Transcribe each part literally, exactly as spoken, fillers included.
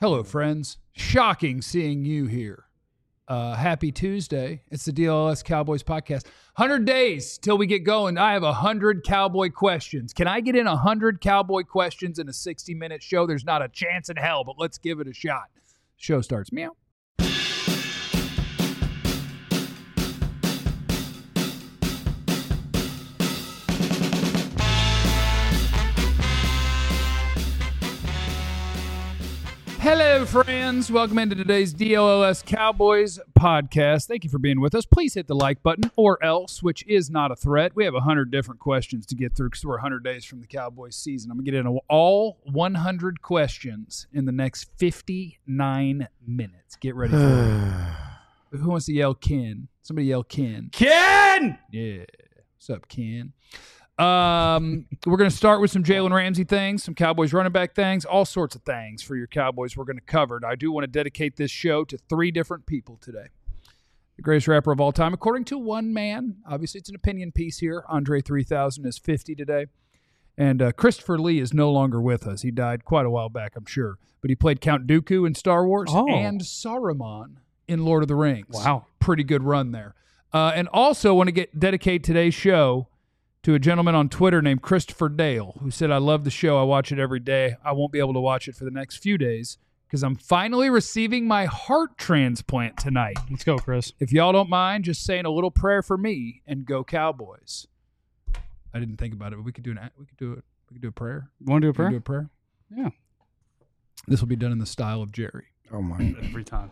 Hello, friends. Shocking seeing you here. Uh, happy Tuesday. It's the D L L S Cowboys podcast. one hundred days till we get going. I have one hundred Cowboy questions. Can I get in one hundred Cowboy questions in a sixty-minute show? There's not a chance in hell, but let's give it a shot. Show starts. Meow. Hello, friends. Welcome into today's D L L S Cowboys podcast. Thank you for being with us. Please hit the like button or else, which is not a threat. We have one hundred different questions to get through because we're one hundred days from the Cowboys season. I'm going to get into all one hundred questions in the next fifty-nine minutes. Get ready for it. Who wants to yell Ken? Somebody yell Ken. Ken! Yeah. What's up, Ken? Um, we're going to start with some Jalen Ramsey things, some Cowboys running back things, all sorts of things for your Cowboys we're going to cover. And I do want to dedicate this show to three different people today. The greatest rapper of all time, according to one man. Obviously, it's an opinion piece here. Andre three thousand is fifty today. And uh, Christopher Lee is no longer with us. He died quite a while back, I'm sure. But he played Count Dooku in Star Wars oh. and Saruman in Lord of the Rings. Wow. Pretty good run there. Uh, and also want to get dedicate today's show to a gentleman on Twitter named Christopher Dale, who said, I love the show. I watch it every day. I won't be able to watch it for the next few days because I'm finally receiving my heart transplant tonight. Let's go, Chris. If y'all don't mind, just saying a little prayer for me and go Cowboys. I didn't think about it, but we could do an we could do it. We could do a prayer. You want to do a prayer? Do a prayer? Yeah. This will be done in the style of Jerry. Oh my! Every time.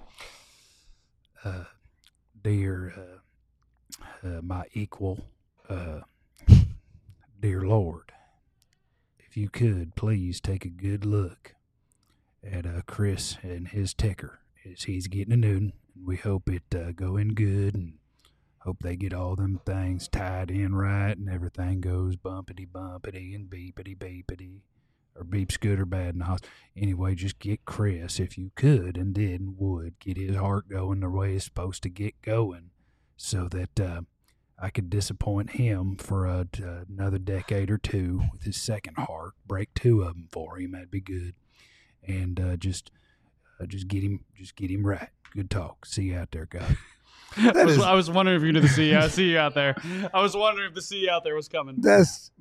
Uh, dear, uh, uh, my equal. Uh, Dear Lord, if you could, please take a good look at uh, Chris and his ticker as he's getting a new one. We hope it uh, go in good and hope they get all them things tied in right and everything goes bumpity-bumpity and beepity-beepity or beeps good or bad in the hospital. Anyway, just get Chris, if you could and did and would, get his heart going the way it's supposed to get going so that uh, I could disappoint him for a, uh, another decade or two with his second heart. Break two of them for him. That'd be good. And uh, just, uh, just get him, just get him right. Good talk. See you out there, guys. I, was, is, I was wondering if you knew the C. I see you out there. I was wondering if the C out there was coming. That's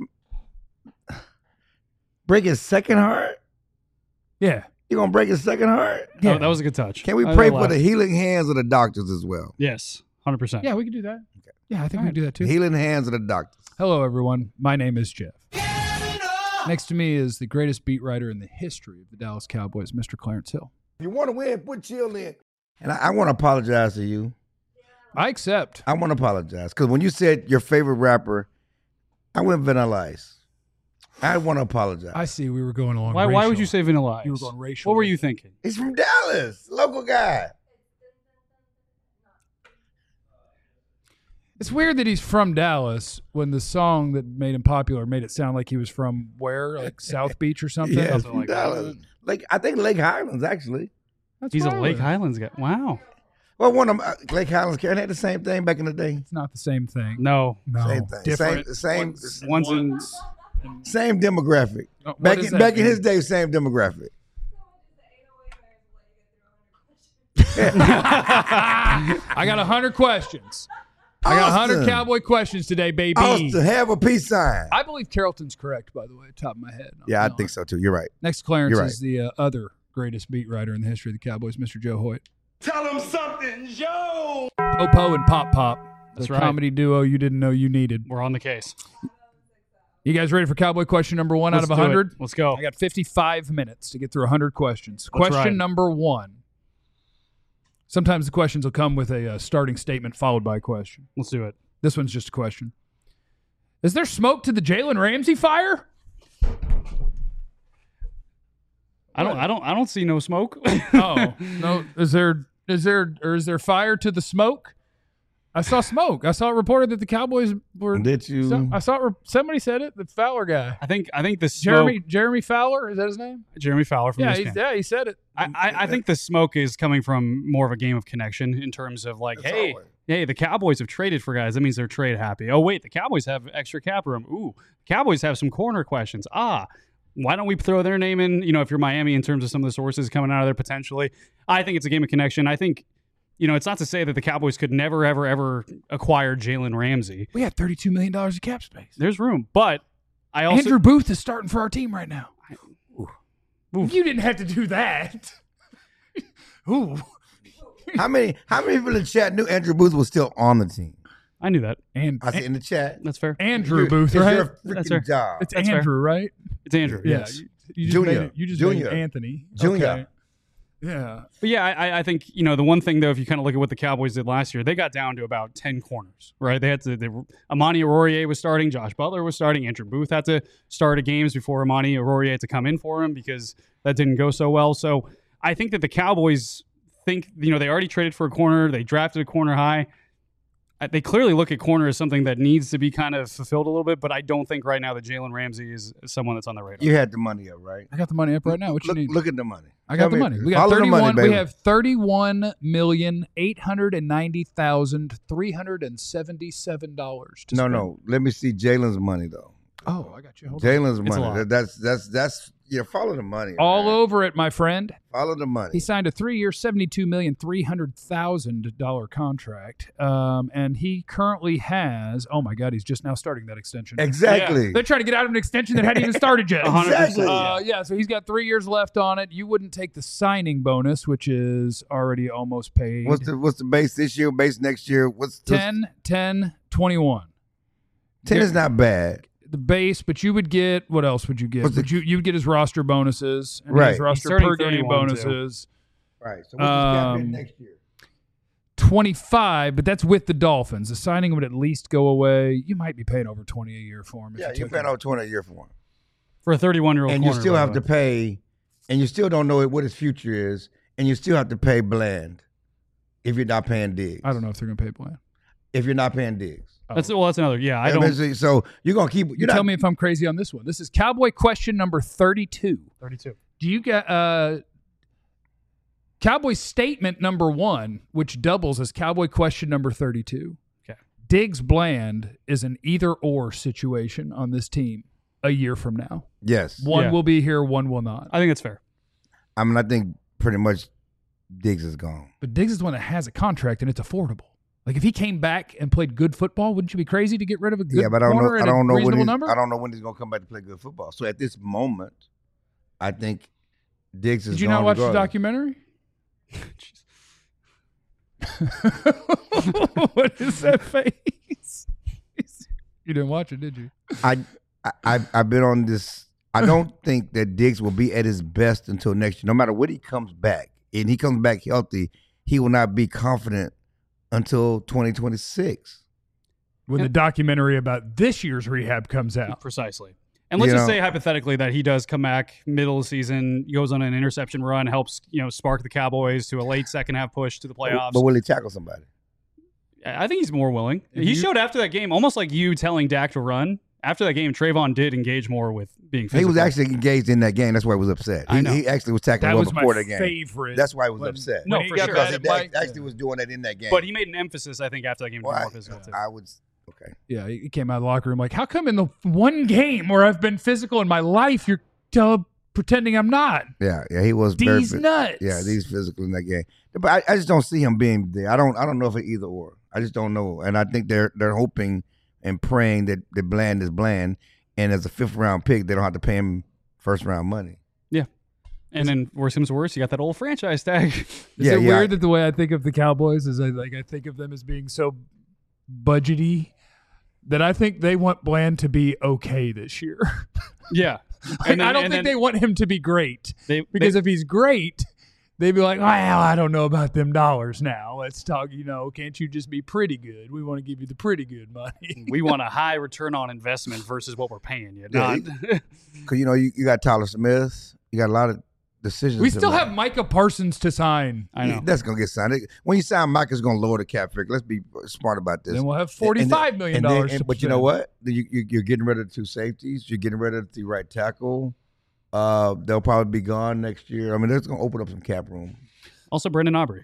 break his second heart. Yeah, you gonna break his second heart? Yeah, oh, that was a good touch. Can we pray I, I for the healing hands of the doctors as well? Yes, one hundred percent. Yeah, we can do that. Okay. Yeah, I think All we can do that too. Healing hands of the doctors. Hello, everyone. My name is Jeff. Next to me is the greatest beat writer in the history of the Dallas Cowboys, Mister Clarence Hill. If you want to win, put chill in. And I, I want to apologize to you. I accept. I want to apologize because when you said your favorite rapper, I went Vanilla Ice. I want to apologize. I see. We were going along. Why? Racial. Why would you say Vanilla Ice? You were going racial. What were you thinking? He's from Dallas, local guy. It's weird that he's from Dallas when the song that made him popular made it sound like he was from where, like South Beach or something. Yeah, something from like Dallas. That. Like I think Lake Highlands actually. That's He's a right. Lake Highlands guy. Wow. Well, one of them, uh, Lake Highlands, Karen had the same thing back in the day. It's not the same thing. No. No. Same thing. Different. Same, same, One's in. same demographic. Oh, what back does in, that back in mean? his day, same demographic. I got one hundred questions. I got one hundred Austin. Cowboy questions today, baby. Austin, have a peace sign. I believe Carrollton's correct, by the way, top of my head. yeah, I No. think so too. You're right. Next to Clarence You're right. is the uh, other greatest beat writer in the history of the Cowboys, Mister Joe Hoyt. Tell him something, Joe. Popo and Pop Pop, the That's right. comedy duo you didn't know you needed. We're on the case. You guys ready for Cowboy question number one Let's out of do one hundred? it. Let's go. I got fifty-five minutes to get through one hundred questions. Let's Question ride. number one. Sometimes the questions will come with a uh, starting statement followed by a question. Let's do it. This one's just a question. Is there smoke to the Jalen Ramsey fire? I don't. I don't. I don't see no smoke. Oh, no. Is there is there or is there fire to the smoke? I saw smoke. I saw it reported that the Cowboys were. Did you? Some, I saw it, somebody said it. The Fowler guy, I think. I think the smoke. Jeremy Jeremy Fowler, is that his name? Jeremy Fowler from Yeah, E S P he's, N. yeah, he said it. I, I, I think the smoke is coming from more of a game of connection in terms of like, That's hey, always. hey, the Cowboys have traded for guys. That means they're trade happy. Oh wait, the Cowboys have extra cap room. Ooh, Cowboys have some corner questions. Ah, why don't we throw their name in, you know, if you're Miami in terms of some of the sources coming out of there potentially. I think it's a game of connection. I think, you know, it's not to say that the Cowboys could never, ever, ever acquire Jalen Ramsey. We have thirty-two million dollars in cap space. There's room. But I also... Andrew Booth is starting for our team right now. Oof. You didn't have to do that. Ooh. How many how many people in the chat knew Andrew Booth was still on the team? I knew that. And I see in the chat. That's fair. Andrew Your- Booth, it's right? your That's fair. freaking job. It's That's Andrew, right? It's Andrew. Yeah. Yes. You, you just Junior. made it, you just Junior. made it Anthony. Junior. Okay. Yeah. But yeah, I, I think, you know, the one thing, though, if you kind of look at what the Cowboys did last year, they got down to about ten corners, right? They had to, they were, Amani Aurorier was starting, Josh Butler was starting, Andrew Booth had to start a games before Amani Aurorier had to come in for him because that didn't go so well. So I think that the Cowboys think, you know, they already traded for a corner, they drafted a corner high. They clearly look at corner as something that needs to be kind of fulfilled a little bit, but I don't think right now that Jalen Ramsey is someone that's on the radar. You had the money up, right? I got the money up right now. What Look, you need? look at the money. I got Tell the me- money. We got follow the thirty-one. money, we baby. have thirty-one million eight hundred and ninety thousand three hundred and seventy-seven dollars. No, no. Let me see Jalen's money though. Oh, I got you. Hold on. Jalen's It's a money. lot. That- That's that's that's yeah. Follow the money. All man. over it, my friend. Follow the money. He signed a three-year, seventy-two million three hundred thousand dollar contract, um, and he currently has. Oh my God, he's just now starting that extension. Exactly. They're trying to get out of an extension that hadn't even started yet. one hundred percent. Exactly. Uh, yeah, so he's got three years left on it. You wouldn't take the signing bonus, which is already almost paid. What's the what's the base this year? Base next year? What's what's- ten, ten, twenty-one. ten is not bad. The base, but you would get what else would you get? What's the- Would you you would get his roster bonuses, and Right. his roster turning per game thirty-one, too. bonuses. Right. So what's the cap hit Um, next year? twenty-five, but that's with the Dolphins. The signing would at least go away. You might be paying over twenty a year for him. if Yeah, you you're took paying him. over twenty a year for one, For a thirty-one-year-old and corner, you still by have the to way. pay, and you still don't know what his future is, and you still have to pay Bland if you're not paying Diggs. I don't know if they're going to pay Bland. If you're not paying Diggs. That's well. That's another. Yeah, I Yeah, don't. basically, so you're gonna keep. You're You not, tell me if I'm crazy on this one. This is Cowboy question number thirty-two. thirty-two. Do you get uh, Cowboy statement number one, which doubles as Cowboy question number thirty-two? Okay. Diggs Bland is an either or situation on this team a year from now. Yes. One Yeah. will be here, one will not. I think that's fair. I mean, I think pretty much Diggs is gone. But Diggs is the one that has a contract and it's affordable. Like if he came back and played good football, wouldn't you be crazy to get rid of a good Yeah, but I don't know. corner I at don't a know when reasonable he's, number? I don't know when he's gonna come back to play good football. So at this moment, I think Diggs is. Did you gone not watch the regardless. documentary? What is that face? You didn't watch it, did you? I, I I've, I've been on this. I don't think that Diggs will be at his best until next year. No matter when he comes back, and he comes back healthy, he will not be confident until twenty twenty-six. When the documentary about this year's rehab comes out. Precisely. And let's You just know- say hypothetically that he does come back middle of the season, goes on an interception run, helps you know spark the Cowboys to a late second half push to the playoffs. But will he tackle somebody? I think he's more willing. If He you- showed after that game, almost like you telling Dak to run. After that game, Trayvon did engage more with being physical. He was actually engaged in that game. That's why he was upset. I He, know. he actually was tackling That well was my before the game. favorite. That's why he was when- upset. No, when he for got sure. because mad he at act- Mike. actually was doing that in that game. But he made an emphasis, I think, after that game to be Well, more I- physical too. I would. Okay. Yeah, he came out of the locker room like, how come in the one game where I've been physical in my life, you're tell, pretending I'm not? Yeah, yeah, he was very. These phys- nuts. Yeah, these physical in that game. But I, I just don't see him being there. I don't. I don't know if it either or. I just don't know. And I think they're they're hoping and praying that that Bland is Bland, and as a fifth round pick, they don't have to pay him first round money. And then worse comes to worse, you got that old franchise tag. Is Yeah, it yeah. weird that the way I think of the Cowboys is I like I think of them as being so budgety that I think they want Bland to be okay this year. yeah. Like, And then- I don't and think then they want him to be great they, because they, if he's great, they'd be like, well, I don't know about them dollars now. Let's talk, you know, can't you just be pretty good? We want to give you the pretty good money. we want a high return on investment versus what we're paying you. Yeah, Not, Because you know you, you got Tyler Smith, you got a lot of decisions. We to still make. have Micah Parsons to sign. I know. That's gonna get signed. When you sign Mike, it's gonna lower the cap figure. Let's be smart about this. Then we'll have And- forty-five and- million and then- dollars. and- to But you know what? You, you, you're getting rid of the two safeties. You're getting rid of the right tackle. Uh, they'll probably be gone next year. I mean, that's gonna open up some cap room. also, Brendan Aubrey.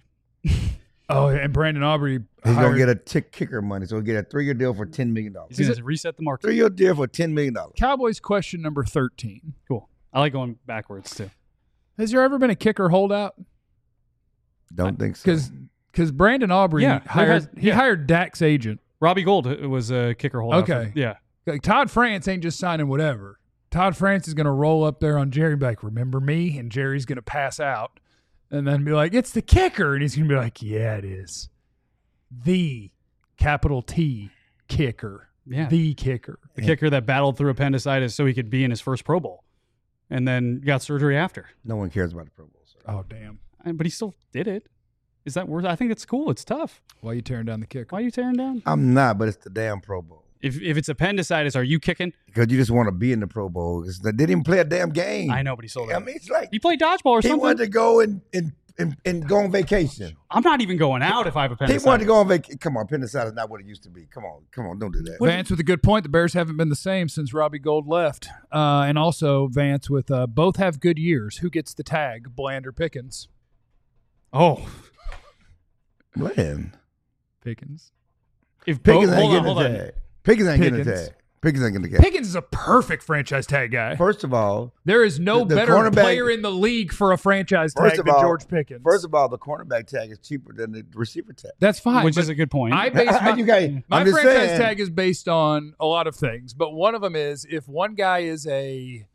Oh, and Brandon Aubrey. He's hired- gonna get a tick kicker money, so he'll get a three year deal for ten million dollars. He's going to reset the market. Three year deal for ten million dollars. Cowboys question number thirteen. Cool. I like going backwards too. Has there ever been a kicker holdout? Don't think so. Because because Brandon Aubrey Yeah, there hired has- he yeah. hired Dak's agent. Robbie Gold was a kicker holdout. Okay. For, yeah. Like Todd France ain't just signing whatever. Todd France is going to roll up there on Jerry and be like, remember me? And Jerry's going to pass out and then be like, it's the kicker. And he's going to be like, yeah, it is. The capital T kicker. Yeah. The kicker. The kicker that battled through appendicitis so he could be in his first Pro Bowl and then got surgery after. No one cares about the Pro Bowl. So. Oh, damn. And- But he still did it. Is that worth? I think it's cool. It's tough. Why are you tearing down the kicker? Why are you tearing down? I'm not, but it's the damn Pro Bowl. If if it's appendicitis, are you kicking? Because you just want to be in the Pro Bowl. It's, they didn't even play a damn game. I know, but he sold I it. mean, it's like He played dodgeball or he something. wanted to go and, and, and, and go on vacation. I'm not even going out if I have He appendicitis. wanted to go on vacation. Come on, appendicitis is not what it used to be. Come on, come on, don't do that. Vance with a good point. The Bears haven't been the same since Robbie Gold left. Uh, and also, Vance with uh, both have good years. Who gets the tag, Bland or Pickens? Oh, Bland. Pickens. if Pickens both, ain't hold on, getting hold the on. tag. Pickens ain't getting the Pickens. tag. Pickens ain't getting the tag. Pickens is a perfect franchise tag guy. First of all, There is no The- the better cornerback- player in the league for a franchise First tag of than all- George Pickens. first of all, the cornerback tag is cheaper than the receiver tag. That's fine. Which but is a good point. I base my, You guys- my I'm just franchise saying. tag is based on a lot of things, but one of them is if one guy is a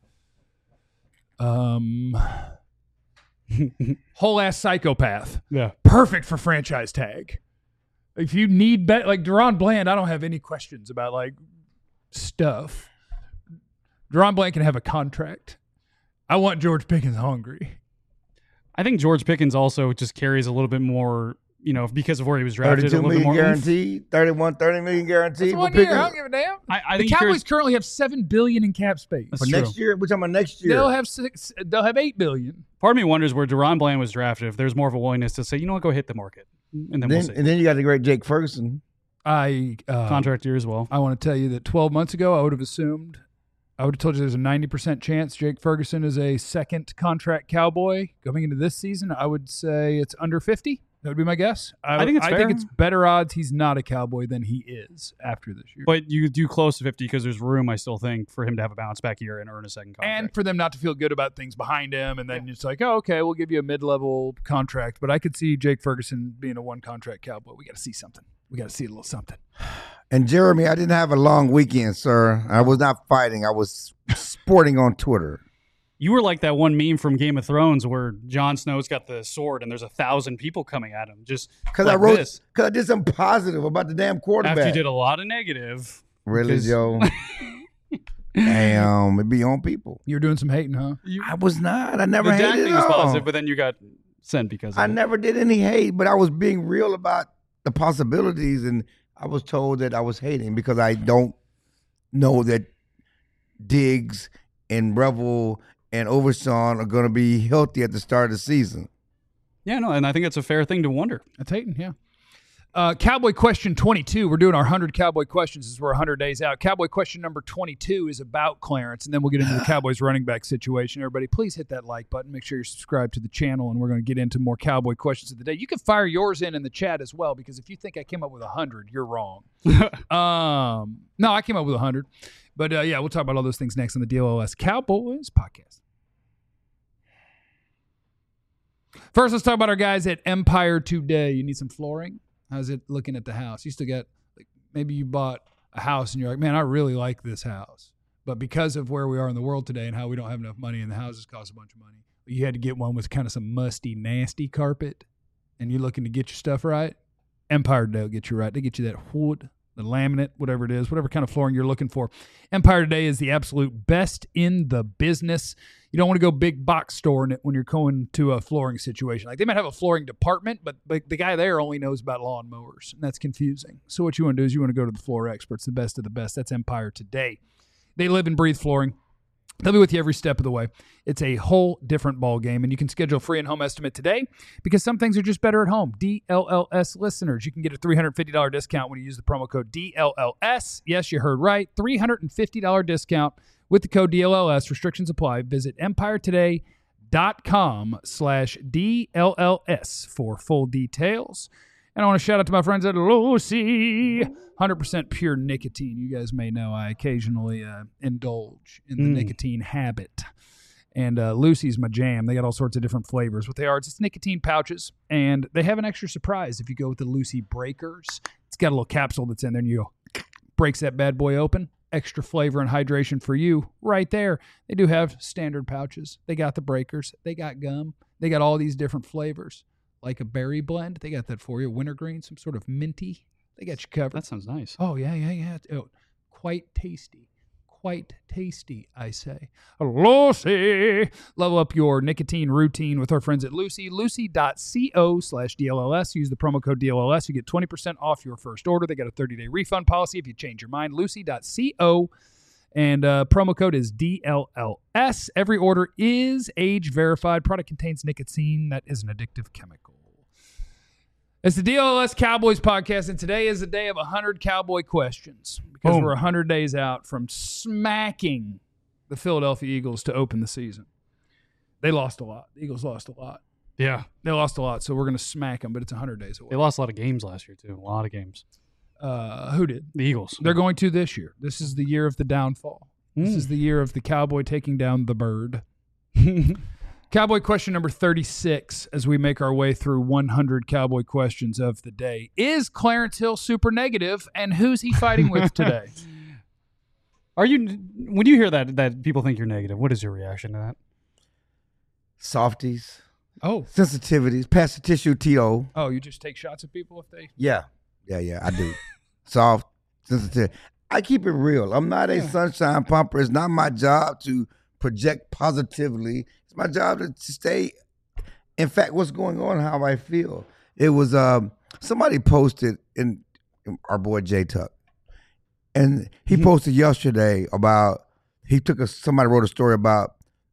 um whole ass psychopath, yeah. perfect for franchise tag. If you need bet like Deron Bland, I don't have any questions about like stuff. Deron Bland can have a contract. I want George Pickens hungry. I think George Pickens also just carries a little bit more, you know, because of where he was drafted. A thirty-two little bit million more oomph. guaranteed, thirty-one, thirty million guaranteed That's for one year. I Pickens. don't give a damn. I, I The think he Cowboys carries, currently have seven billion in cap space. That's For true. next year, we're talking about next year. They'll have six. They'll have eight billion. part of me wonders where Deron Bland was drafted. If there's more of a willingness to say, you know what, go hit the market, and then, then, we'll see. and then you got the great Jake Ferguson. I uh, Contract year as well. I want to tell you that twelve months ago, I would have assumed, I would have told you there's a ninety percent chance Jake Ferguson is a second contract Cowboy coming into this season. I would say it's under fifty. That would be my guess. I, I think it's I fair. think it's better odds he's not a Cowboy than he is after this year. But you do close to fifty because there's room, I still think, for him to have a bounce back year and earn a second contract. and for them not to feel good about things behind him, and then it's like, oh, okay, we'll give you a mid-level contract. But I could see Jake Ferguson being a one-contract Cowboy. We got to see something. We got to see a little something. And Jeremy, I didn't have a long weekend, sir. I was not fighting. I was sporting on Twitter. You were like that one meme from Game of Thrones where Jon Snow's got the sword and there's a thousand people coming at him. Just Because like I wrote, this. because I did something positive about the damn quarterback. After you did a lot of negative. Really, because- Joe? Damn, it be on people. You're doing some hating, huh? You, I was not. I never the Dak hated thing it was all. positive, but then you got sent because of I it. never did any hate, but I was being real about the possibilities, and I was told that I was hating because I don't know that Diggs and Revel and Overshawn are going to be healthy at the start of the season. Yeah, no, and I think it's a fair thing to wonder. That's hating, yeah. Uh, Cowboy question twenty-two. We're doing our one hundred Cowboy questions as we're one hundred days out. Cowboy question number twenty-two is about Clarence, and then we'll get into the Cowboys running back situation. Everybody, please hit that like button. Make sure you're subscribed to the channel, and we're going to get into more Cowboy questions of the day. You can fire yours in in the chat as well, because if you think I came up with one hundred, you're wrong. um, no, I came up with one hundred. But, uh, yeah, we'll talk about all those things next on the D L O S Cowboys podcast. First, let's talk about our guys at Empire Today. You need some flooring? How's it looking at the house? You still got, like, maybe you bought a house and you're like, man, I really like this house. But because of where we are in the world today and how we don't have enough money and the houses cost a bunch of money, you had to get one with kind of some musty, nasty carpet, and you're looking to get your stuff right. Empire Today will get you right. They get you that wood, the laminate, whatever it is, whatever kind of flooring you're looking for. Empire Today is the absolute best in the business. You don't want to go big box store in it when you're going to a flooring situation. Like, they might have a flooring department, but like the guy there only knows about lawn mowers, and that's confusing. So what you want to do is you want to go to the floor experts, the best of the best. That's Empire Today. They live and breathe flooring. They'll be with you every step of the way. It's a whole different ball game, and you can schedule a free and home estimate today because some things are just better at home. D L L S listeners, you can get a three hundred fifty dollars discount when you use the promo code D L L S. Yes, you heard right. three hundred fifty dollars discount with the code D L L S. Restrictions apply. Visit empiretoday.com slash D L L S for full details. And I want to shout out to my friends at Lucy. one hundred percent pure nicotine. You guys may know I occasionally uh, indulge in the Mm. nicotine habit. And uh, Lucy's my jam. They got all sorts of different flavors. What they are, it's just nicotine pouches, and they have an extra surprise if you go with the Lucy Breakers. It's got a little capsule that's in there, and you go, breaks that bad boy open. Extra flavor and hydration for you right there. They do have standard pouches. They got the Breakers. They got gum. They got all these different flavors, like a berry blend. They got that for you. Wintergreen, some sort of minty. They got you covered. That sounds nice. Oh, yeah, yeah, yeah. Oh, quite tasty. Quite tasty, I say. Lucy. Level up your nicotine routine with our friends at Lucy. Lucy.co slash DLLS. Use the promo code D L L S. You get twenty percent off your first order. They got a thirty-day refund policy if you change your mind. Lucy.co. And uh, promo code is D L L S. Every order is age verified. Product contains nicotine that is an addictive chemical. It's the D L L S Cowboys podcast, and today is the day of one hundred Cowboy questions because Boom. we're one hundred days out from smacking the Philadelphia Eagles to open the season. They lost a lot. The Eagles lost a lot. Yeah. They lost a lot, so we're going to smack them, but it's one hundred days away. They lost a lot of games last year, too. A lot of games. Uh, who did? The Eagles. They're going to this year. This is the year of the downfall. This Mm. is the year of the Cowboy taking down the bird. Cowboy question number thirty-six as we make our way through one hundred Cowboy questions of the day. Is Clarence Hill super negative, and who's he fighting with today? Are you, when you hear that, that people think you're negative, what is your reaction to that? Softies, Oh, sensitivities, pass the tissue, T O. oh, you just take shots at people if they... Yeah, yeah, yeah, I do. Soft, sensitive. I keep it real. I'm not a Yeah. sunshine pumper. It's not my job to project positively. It's my job to, to stay, in fact, what's going on, how I feel. It was, um, somebody posted in, in our boy J Tuck, and he Mhm. posted yesterday about, he took a, somebody wrote a story about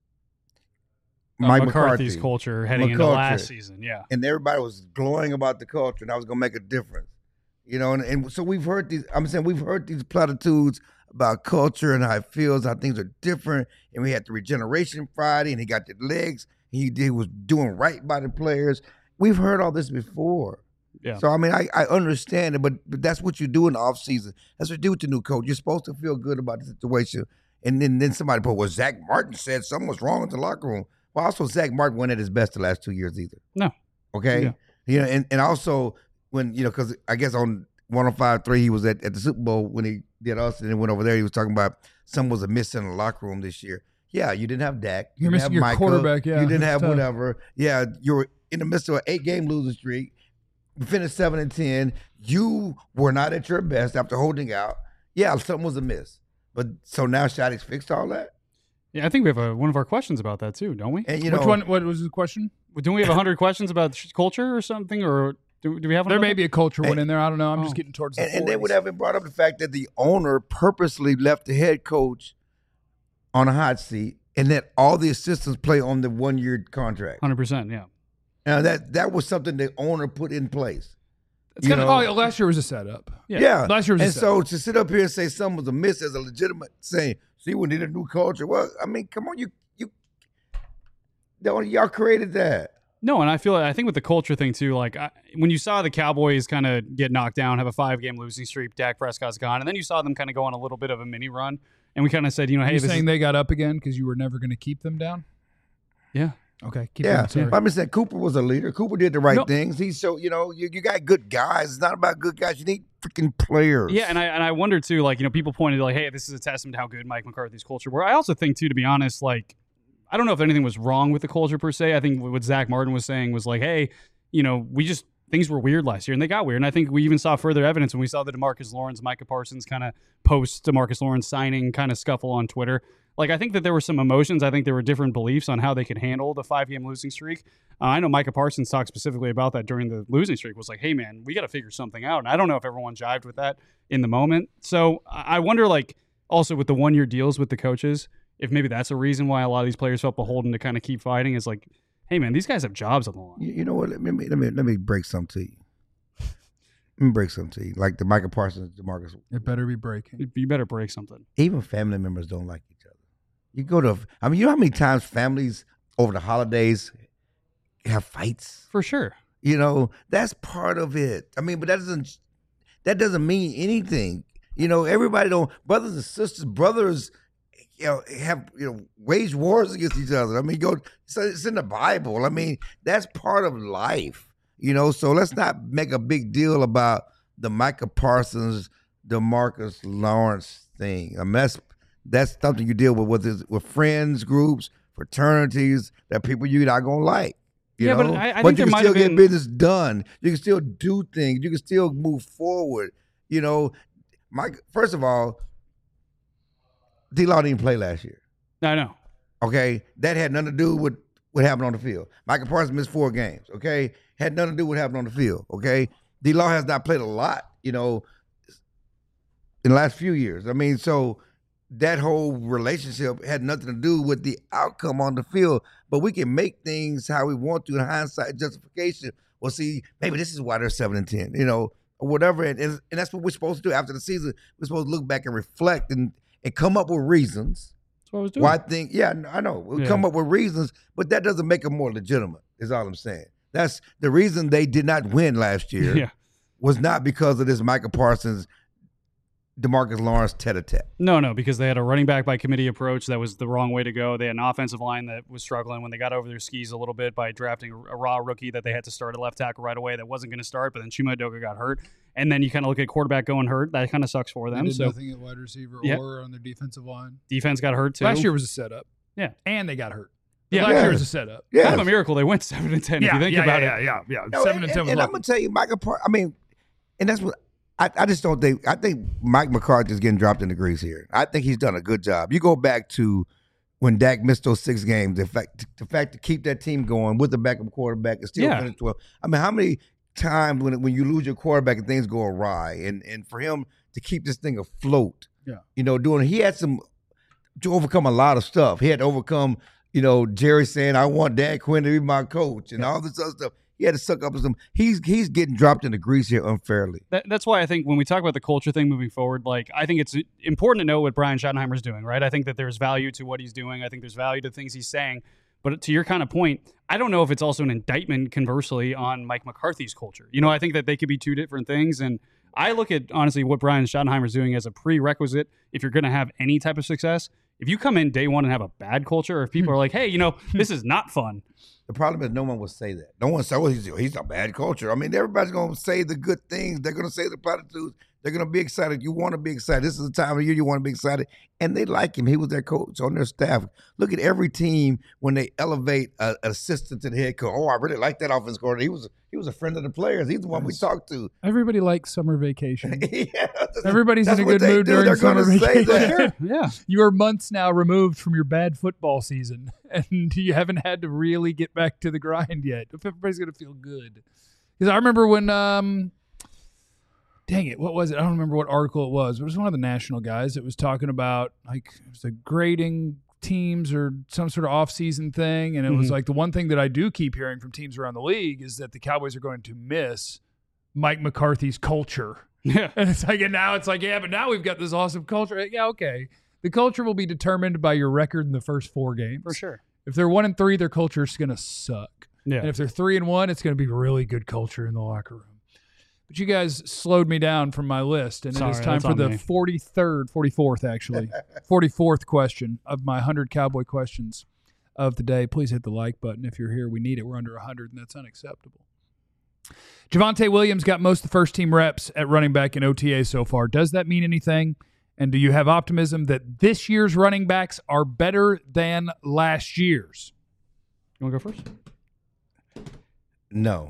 Uh, Mike McCarthy's McCarthy. culture heading into McCarthy. last season, yeah. And everybody was glowing about the culture, and I was gonna make a difference, you know. And, and so we've heard these. I'm saying we've heard these platitudes about culture and how it feels, how things are different. And we had the regeneration Friday, and he got the legs. He did was doing right by the players. We've heard all this before. Yeah. So I mean, I, I understand it, but, but that's what you do in the off season. That's what you do with the new coach. You're supposed to feel good about the situation, and then then somebody put, well, Zach Martin said something was wrong with the locker room. Well, also Zach Martin wasn't at his best the last two years either. No. Okay. Yeah. You know, and, and also when, you know, because I guess on one oh five point three he was at, at the Super Bowl when he did us and then went over there. He was talking about something was a miss in the locker room this year. Yeah, you didn't have Dak. You're You didn't missing have your Micah, quarterback, yeah, You didn't that's have tough. whatever. Yeah, you were in the midst of an eight-game losing streak. You finished seven and ten. You were not at your best after holding out. Yeah, something was amiss. But so now Shaddy's fixed all that? Yeah, I think we have a, one of our questions about that, too, don't we? And you Which know, one? What was the question? Don't we have one hundred questions about sh- culture or something? Or do, do we have one? There about may that? be a culture one And- in there. I don't know. I'm just Oh. getting towards the And, and they would forties. have brought up the fact that the owner purposely left the head coach on a hot seat and that all the assistants play on the one year contract. one hundred percent, yeah. Now that that was something the owner put in place. It's you kinda, know- oh, last year was a setup. Yeah. Yeah. Last year was a and setup. so to sit up here and say something was amiss as a legitimate saying, see, we need a new culture. Well, I mean, come on, you you don't y'all created that. No, and I feel I think with the culture thing too, like I, when you saw the Cowboys kind of get knocked down, have a five-game losing streak, Dak Prescott's gone, and then you saw them kind of go on a little bit of a mini run, and we kind of said, you know, hey, you this saying is, they got up again because you were never going to keep them down? yeah, Okay, keep Yeah, going. Sorry. I'm just saying Cooper was a leader. Cooper did the right No. things. He's so you know you, you got good guys. It's not about good guys. You need freaking players. yeah, and I and I wonder too, like you know, people pointed like, hey, this is a testament to how good Mike McCarthy's culture were. I also think too, to be honest, like I don't know if anything was wrong with the culture per se. I think what Zach Martin was saying was like, hey, you know, we just things were weird last year, and they got weird. And I think we even saw further evidence when we saw the DeMarcus Lawrence, Micah Parsons kind of post DeMarcus Lawrence signing kind of scuffle on Twitter. Like, I think that there were some emotions. I think there were different beliefs on how they could handle the five-game losing streak. Uh, I know Micah Parsons talked specifically about that during the losing streak, was like, hey, man, we got to figure something out. And I don't know if everyone jived with that in the moment. So I I wonder, like, also with the one-year deals with the coaches, if maybe that's a reason why a lot of these players felt beholden to kind of keep fighting is like, hey, man, these guys have jobs on the line. You, you know what? Let me let me let me break something to you. Let me break something to you. Like the Michael Parsons, DeMarcus. It better be breaking. You- You better break something. Even family members don't like each other. You go to, I mean, you know how many times families over the holidays have fights? For sure. You know, that's part of it. I mean, but that doesn't that doesn't mean anything. You know, everybody don't brothers and sisters, brothers, you know, have you know, wage wars against each other. I mean, go. It's, it's in the Bible. I mean, that's part of life. You know, so let's not make a big deal about the Micah Parsons, DeMarcus Lawrence thing. I mean, that's that's something you deal with with with friends, groups, fraternities that people you're not gonna like. You Yeah, know? but I- I but think you there can might still have get been- business done. You can still do things. You can still move forward. You know, Mike. First of all, D-Law didn't play last year. I know. Okay, that had nothing to do with what happened on the field. Michael Parsons missed four games. Okay, had nothing to do with what happened on the field. Okay, D-Law has not played a lot. You know, in the last few years. I mean, so that whole relationship had nothing to do with the outcome on the field. But we can make things how we want to in hindsight justification. Well, see, maybe this is why they're seven and ten. You know, or whatever, and, and and that's what we're supposed to do after the season. We're supposed to look back and reflect and and come up with reasons. That's what I was doing. Why I think, yeah, I know. We'll Yeah. come up with reasons, but that doesn't make them more legitimate, is all I'm saying. That's the reason they did not win last year Yeah. was not because of this Michael Parsons, DeMarcus Lawrence tete-a-tete. No, no, because they had a running back by committee approach that was the wrong way to go. They had an offensive line that was struggling when they got over their skis a little bit by drafting a, a raw rookie that they had to start at left tackle right away that wasn't going to start, but then Chuma Edoga got hurt. And then you kind of look at quarterback going hurt. That kind of sucks for They them. did So nothing at wide receiver Yeah. or on their defensive line. defense got hurt too. Last year was a setup. Yeah. And they got hurt. Yeah. Last Yeah. year was a setup. Yeah. Kind of a miracle they went seven and ten if you think yeah, about yeah, it. yeah, yeah, yeah. No, Seven and, and ten and, was and I'm lucky. going to tell you, Michael Parsons, I mean, and that's what, I, I just don't think, I think Mike McCarthy is getting dropped in the grease here. I think he's done a good job. You go back to when Dak missed those six games, the fact, the fact to keep that team going with the backup quarterback and still Yeah. finish twelve. I mean, how many times when when you lose your quarterback and things go awry, and and for him to keep this thing afloat, Yeah. you know, doing he had some to overcome a lot of stuff. He had to overcome, you know, Jerry saying, "I want Dan Quinn to be my coach," and all this other stuff. He had to suck up some. He's he's getting dropped in the grease here unfairly. That, that's why I think when we talk about the culture thing moving forward, like I think it's important to know what Brian Schottenheimer's doing, right? I think that there's value to what he's doing. I think there's value to things he's saying. But to your kind of point, I don't know if it's also an indictment, conversely, on Mike McCarthy's culture. You know, I think that they could be two different things. And I look at, honestly, what Brian Schottenheimer's doing as a prerequisite if you're going to have any type of success. If you come in day one and have a bad culture, or if people are like, hey, you know, this is not fun. The problem is no one will say that. No one say, "Oh, he's, he's a bad culture." I mean, everybody's going to say the good things. They're going to say the platitudes. They're going to be excited. You want to be excited. This is the time of year you want to be excited. And they like him. He was their coach on their staff. Look at every team when they elevate a- an assistant to the head coach. Oh, I really like that offense coordinator. He was he was a friend of the players. He's the one we talked to. Everybody likes summer vacation. Yeah, Everybody's that's in a what good they mood do. during They're summer gonna say vacation. that. Yeah. You are months now removed from your bad football season, and you haven't had to really get back to the grind yet. If everybody's going to feel good. Because I remember when, um, dang it, what was it? I don't remember what article it was. But it was one of the national guys that was talking about, like, it was a grading teams or some sort of off-season thing. And it was Mhm. like the one thing that I do keep hearing from teams around the league is that the Cowboys are going to miss Mike McCarthy's culture. Yeah. And it's like, and now it's like, yeah, but now we've got this awesome culture. Yeah, okay. The culture will be determined by your record in the first four games. For sure. If they're one and three, their culture is going to suck. Yeah. And if they're three and one, it's going to be really good culture in the locker room. But you guys slowed me down from my list, and Sorry, it is time that's for on the me. forty-third, forty-fourth, actually, forty-fourth question of my one hundred Cowboy questions of the day. Please hit the like button if you're here. We need it. We're under one hundred, and that's unacceptable. Javonte Williams got most of the first team reps at running back in O T A so far. Does that mean anything? And do you have optimism that this year's running backs are better than last year's? You want to go first? No.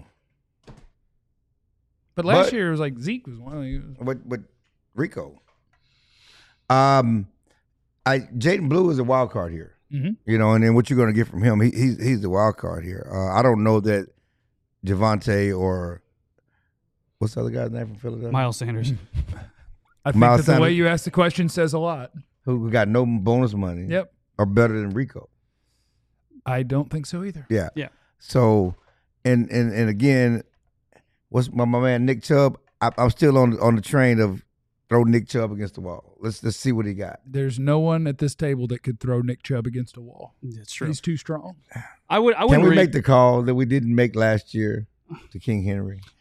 But last But- year it was like Zeke was one of the With with Rico. Um, I Jaden Blue is a wild card here. Mhm. You know, and then what you're going to get from him, he, he's he's the wild card here. Uh, I don't know that Javonte or what's the other guy's name from Philadelphia? Miles Sanders. I think Miles that the way Sanders. you ask the question says a lot. Who who got no bonus money. Yep. Are better than Rico. I don't think so either. Yeah. Yeah. So, and and and again, what's my, my man Nick Chubb? I, I'm still on on the train of throw Nick Chubb against the wall. Let's let's see what he got. There's no one at this table that could throw Nick Chubb against a wall. That's true. He's too strong. I would. I Can wouldn't we read, make the call that we didn't make last year to King Henry?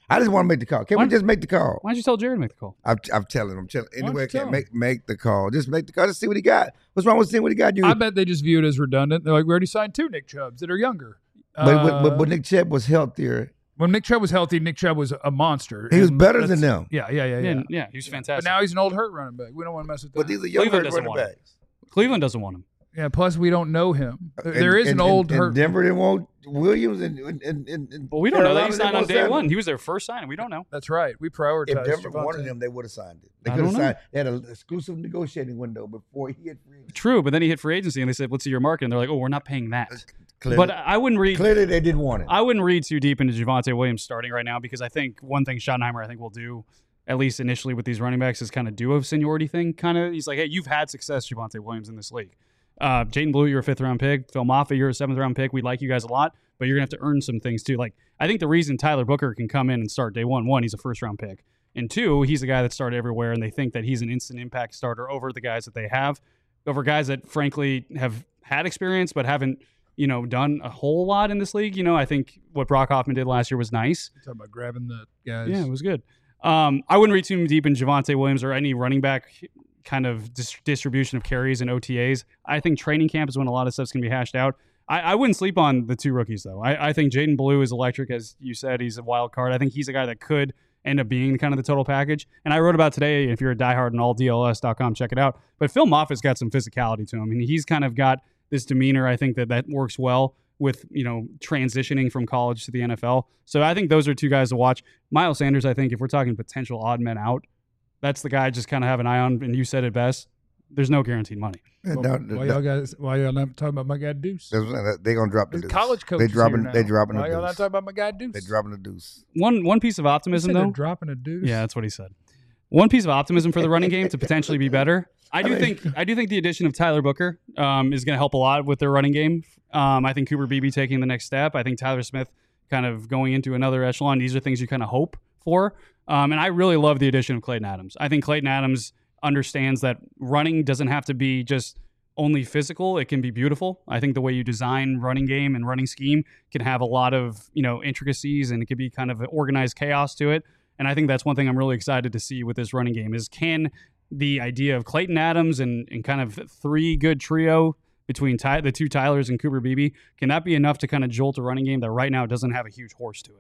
I just want to make the call. Can Why- we just make the call? Why don't you tell Jared to make the call? I'm, I'm telling him. I'm telling don't anyway. you tell Can him? make make the call. Just make the call. Just see what he got. What's wrong with seeing what he got? You. I bet they just view it as redundant. They're like, we already signed two Nick Chubbs that are younger. but, but, Uh, but but Nick Chubb was healthier. when Nick Chubb was healthy, Nick Chubb was a monster. He was And better than that's- them. Yeah, yeah, yeah, Yeah, yeah. yeah, he was But fantastic. now he's an old hurt running back. We don't want to mess with that. But these are young Cleveland doesn't running want him. backs. Cleveland doesn't want him. yeah, plus we don't know him. There, And- there is and- an old and, hurt. And Denver didn't want Williams, and and and, and, and But we don't know that Carolina he didn't signed on want day Sanders. one. He was their first signing. We don't know. That's right. We prioritized. If Denver Javonte. wanted him, they would have signed it. They I could have don't know. signed. They had an exclusive negotiating window before he hit free agency. True, but then he hit free agency and they said, "What's your market?" And they're like, "Oh, we're not paying that." Clearly, But I wouldn't read. clearly they didn't want it. I wouldn't read too deep into Javonte Williams starting right now because I think one thing Schottenheimer I think will do, at least initially with these running backs, is kind of do a seniority thing. Kind of, he's like, "Hey, you've had success, Javonte Williams, in this league. Uh, Jaden Blue, you're a fifth round pick. Phil Moffitt, you're a seventh round pick. We like you guys a lot, but you're gonna have to earn some things too. Like, I think the reason Tyler Booker can come in and start day one, one, he's a first round pick, and two, he's a guy that started everywhere, and they think that he's an instant impact starter over the guys that they have, over guys that frankly have had experience but haven't, you know, done a whole lot in this league. You know, I think what Brock Hoffman did last year was nice. You're talking about grabbing the guys. Yeah, it was good. Um, I wouldn't read too deep in Javonte Williams or any running back kind of dis- distribution of carries and O T As. I think training camp is when a lot of stuff's going to be hashed out. I, I wouldn't sleep on the two rookies, though. I, I think Jaden Blue is electric, as you said. He's a wild card. I think he's a guy that could end up being kind of the total package. And I wrote about today, if you're a diehard on all D L S dot com, check it out. But Phil Moffitt's got some physicality to him, and he's kind of got this demeanor. I think that that works well with, you know, transitioning from college to the N F L. So I think those are two guys to watch. Miles Sanders, I think, if we're talking potential odd men out, that's the guy I just kind of have an eye on. And you said it best. There's no guaranteed money. And Well, now- why y'all guys? Why y'all not talking about my guy Deuce? That's what- they gonna drop the His deuce. college coach. They is dropping. here They now. dropping Why the y'all not deuce. talking about my guy Deuce? They dropping the deuce. One one piece of You optimism, said they're though. dropping a Deuce. Yeah, that's what he said. One piece of optimism for the running game to potentially be better. I do I mean- think I do think the addition of Tyler Booker um, is going to help a lot with their running game. Um, I think Cooper Beebe taking the next step. I think Tyler Smith kind of going into another echelon. These are things you kind of hope for. Um, and I really love the addition of Clayton Adams. I think Clayton Adams understands that running doesn't have to be just only physical. It can be beautiful. I think the way you design running game and running scheme can have a lot of, you know, intricacies, and it could be kind of organized chaos to it. And I think that's one thing I'm really excited to see with this running game is can the idea of Clayton Adams and, and kind of three good trio between Ty, the two Tylers and Cooper Beebe, can that be enough to kind of jolt a running game that right now doesn't have a huge horse to it?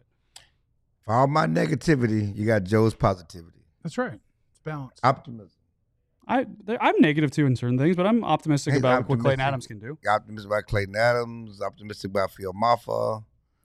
For all my negativity, you got Joe's positivity, That's right. It's balanced. optimism. I there- I'm negative too in certain things, but I'm optimistic He's about what Clayton optimistic. Adams can do. Optimistic about Clayton Adams. Optimistic about Phil Maffa.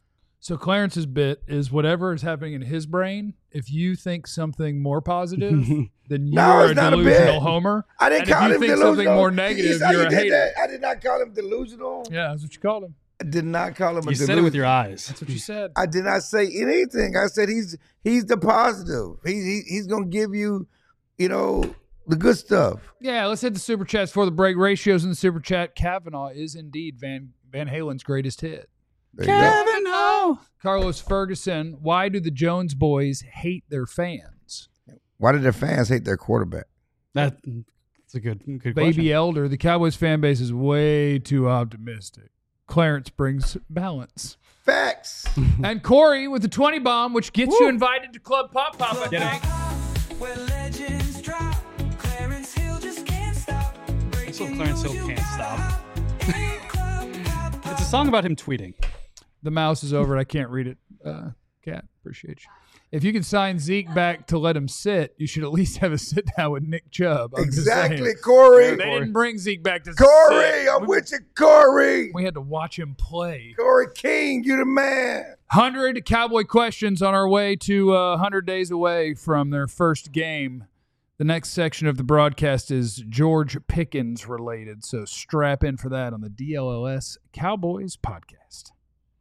So Clarence's bit is whatever is happening in his brain. If you think something more positive, then you No, are it's a not a delusional bit. homer. I didn't And if call you him think delusional. something more He negative, said you're he a did hater. that. I did not call him delusional. Yeah, that's what you called him. I did not call him a You delusional. said it with your eyes. That's what you said. I did not say anything. I said he's he's the positive. He, he he's gonna give you, you know, the good stuff. Yeah, let's hit the super chats for the break. Ratios in the super chat. Kavanaugh is indeed Van Van Halen's greatest hit. There you go. Kavanaugh. Carlos Ferguson, why do the Jones boys hate their fans? Why did their fans hate their quarterback? That, that's a good good Baby question. Elder, the Cowboys fan base is way too optimistic. Clarence brings balance. Facts. And Corey with the twenty bomb, which gets you invited to Club Pop Pop, I Get think. Where legends drop, Clarence Hill just can't stop. So Clarence Hill can't stop. It's a song about him tweeting. The mouse is over. I can't read it. Uh, Cat, appreciate you. If you can sign Zeke back to let him sit, you should at least have a sit down with Nick Chubb. I'm just saying. Exactly, Corey. They didn't bring Zeke back to Corey, sit. I'm we, with you, Corey. we had to watch him play. Corey King, you the man. one hundred Cowboy questions on our way to uh, one hundred days away from their first game. The next section of the broadcast is George Pickens related, so strap in for that on the D L L S Cowboys podcast.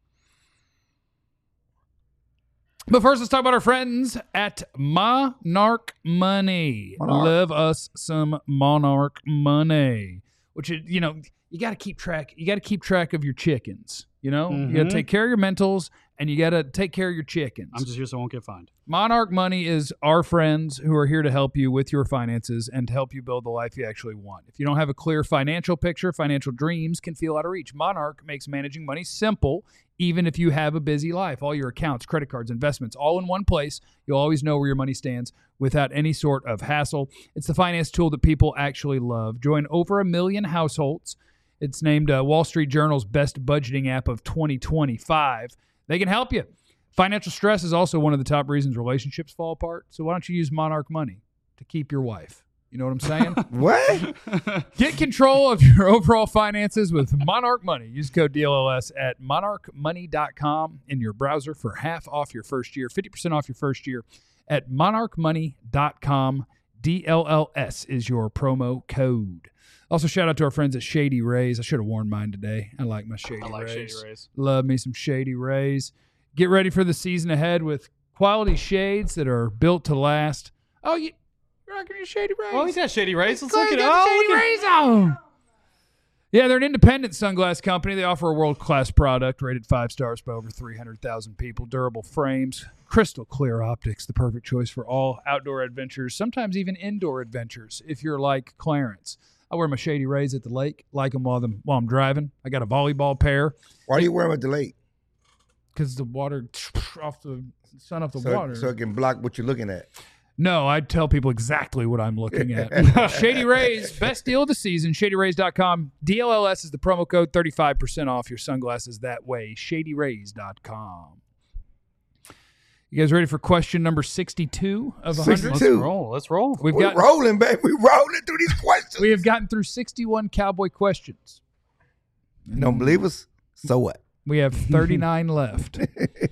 But first, let's talk about our friends at Monarch Money. Monarch. Love us some Monarch Money, which is, you know, you got to keep track. You got to keep track of your chickens. You know, you got to Mhm. take care of your mentals, and you got to take care of your chickens. I'm just here so I won't get fined. Monarch Money is our friends who are here to help you with your finances and to help you build the life you actually want. If you don't have a clear financial picture, financial dreams can feel out of reach. Monarch makes managing money simple, even if you have a busy life. All your accounts, credit cards, investments, all in one place. You'll always know where your money stands without any sort of hassle. It's the finance tool that people actually love. Join over a million households. It's named uh, Wall Street Journal's best budgeting app of twenty twenty-five. They can help you. Financial stress is also one of the top reasons relationships fall apart. So why don't you use Monarch Money to keep your wife? You know what I'm saying? What? Get control of your overall finances with Monarch Money. Use code D L L S at monarch money dot com in your browser for half off your first year, fifty percent off your first year at monarch money dot com. D L L S is your promo code. Also, shout out to our friends at Shady Rays. I should have worn mine today. I like my Shady I like Rays. Shady Rays. Love me some Shady Rays. Get ready for the season ahead with quality shades that are built to last. Oh, you, you're rocking your Shady Rays. Oh, he's got Shady Rays. Let's Look look at it. got the Oh, Shady look at- Rays on. Yeah, they're an independent sunglass company. They offer a world-class product rated five stars by over three hundred thousand people. Durable frames, crystal clear optics, the perfect choice for all outdoor adventures, sometimes even indoor adventures if you're like Clarence. I wear my Shady Rays at the lake, like them while, them, while I'm driving. I got a volleyball pair Why do you wear them at the lake? because the water off the sun off the So, water. so it can block what you're looking at. No, I tell people exactly what I'm looking at. Shady Rays, best deal of the season, shady rays dot com. D L L S is the promo code, thirty-five percent off your sunglasses that way, shady rays dot com. You guys ready for question number sixty-two of one hundred? Let's Two. roll. Let's roll. We've We're got rolling, baby. We're rolling through these questions. we have gotten through sixty-one Cowboy questions. You don't believe us? So what? We have thirty-nine left.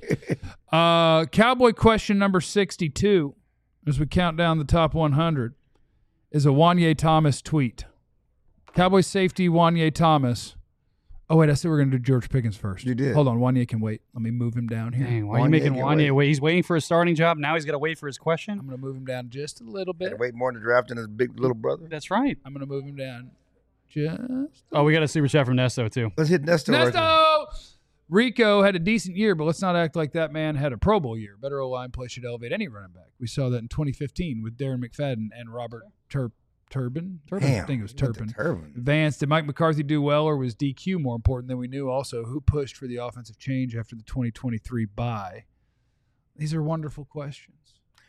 Uh, Cowboy question number sixty-two, as we count down the top one hundred, is a Wanye Thomas tweet. Cowboy safety Wanye Thomas. Oh, wait, I said we we're going to do George Pickens first. You did. Hold on, Wanye can wait. Let me move him down here. Dang, why are you Wanye making can Wanye wait. wait? He's waiting for a starting job. Now he's got to wait for his question. I'm going to move him down just a little bit. Gotta wait more to draft than his big little brother. That's right. I'm going to move him down just. Oh, we got a super chat from Nesto, too. Let's hit Nestor. right there. Nesto! Rico had a decent year, but let's not act like that man had a Pro Bowl year. Better O-line play should elevate any running back. We saw that in twenty fifteen with Darren McFadden and Robert Tur- Turbin. Turbin? Damn, I think it was with the Turpin. Turpin. Vance, did Mike McCarthy do well, or was D Q more important than we knew? Also, who pushed for the offensive change after the twenty twenty-three bye? These are wonderful questions.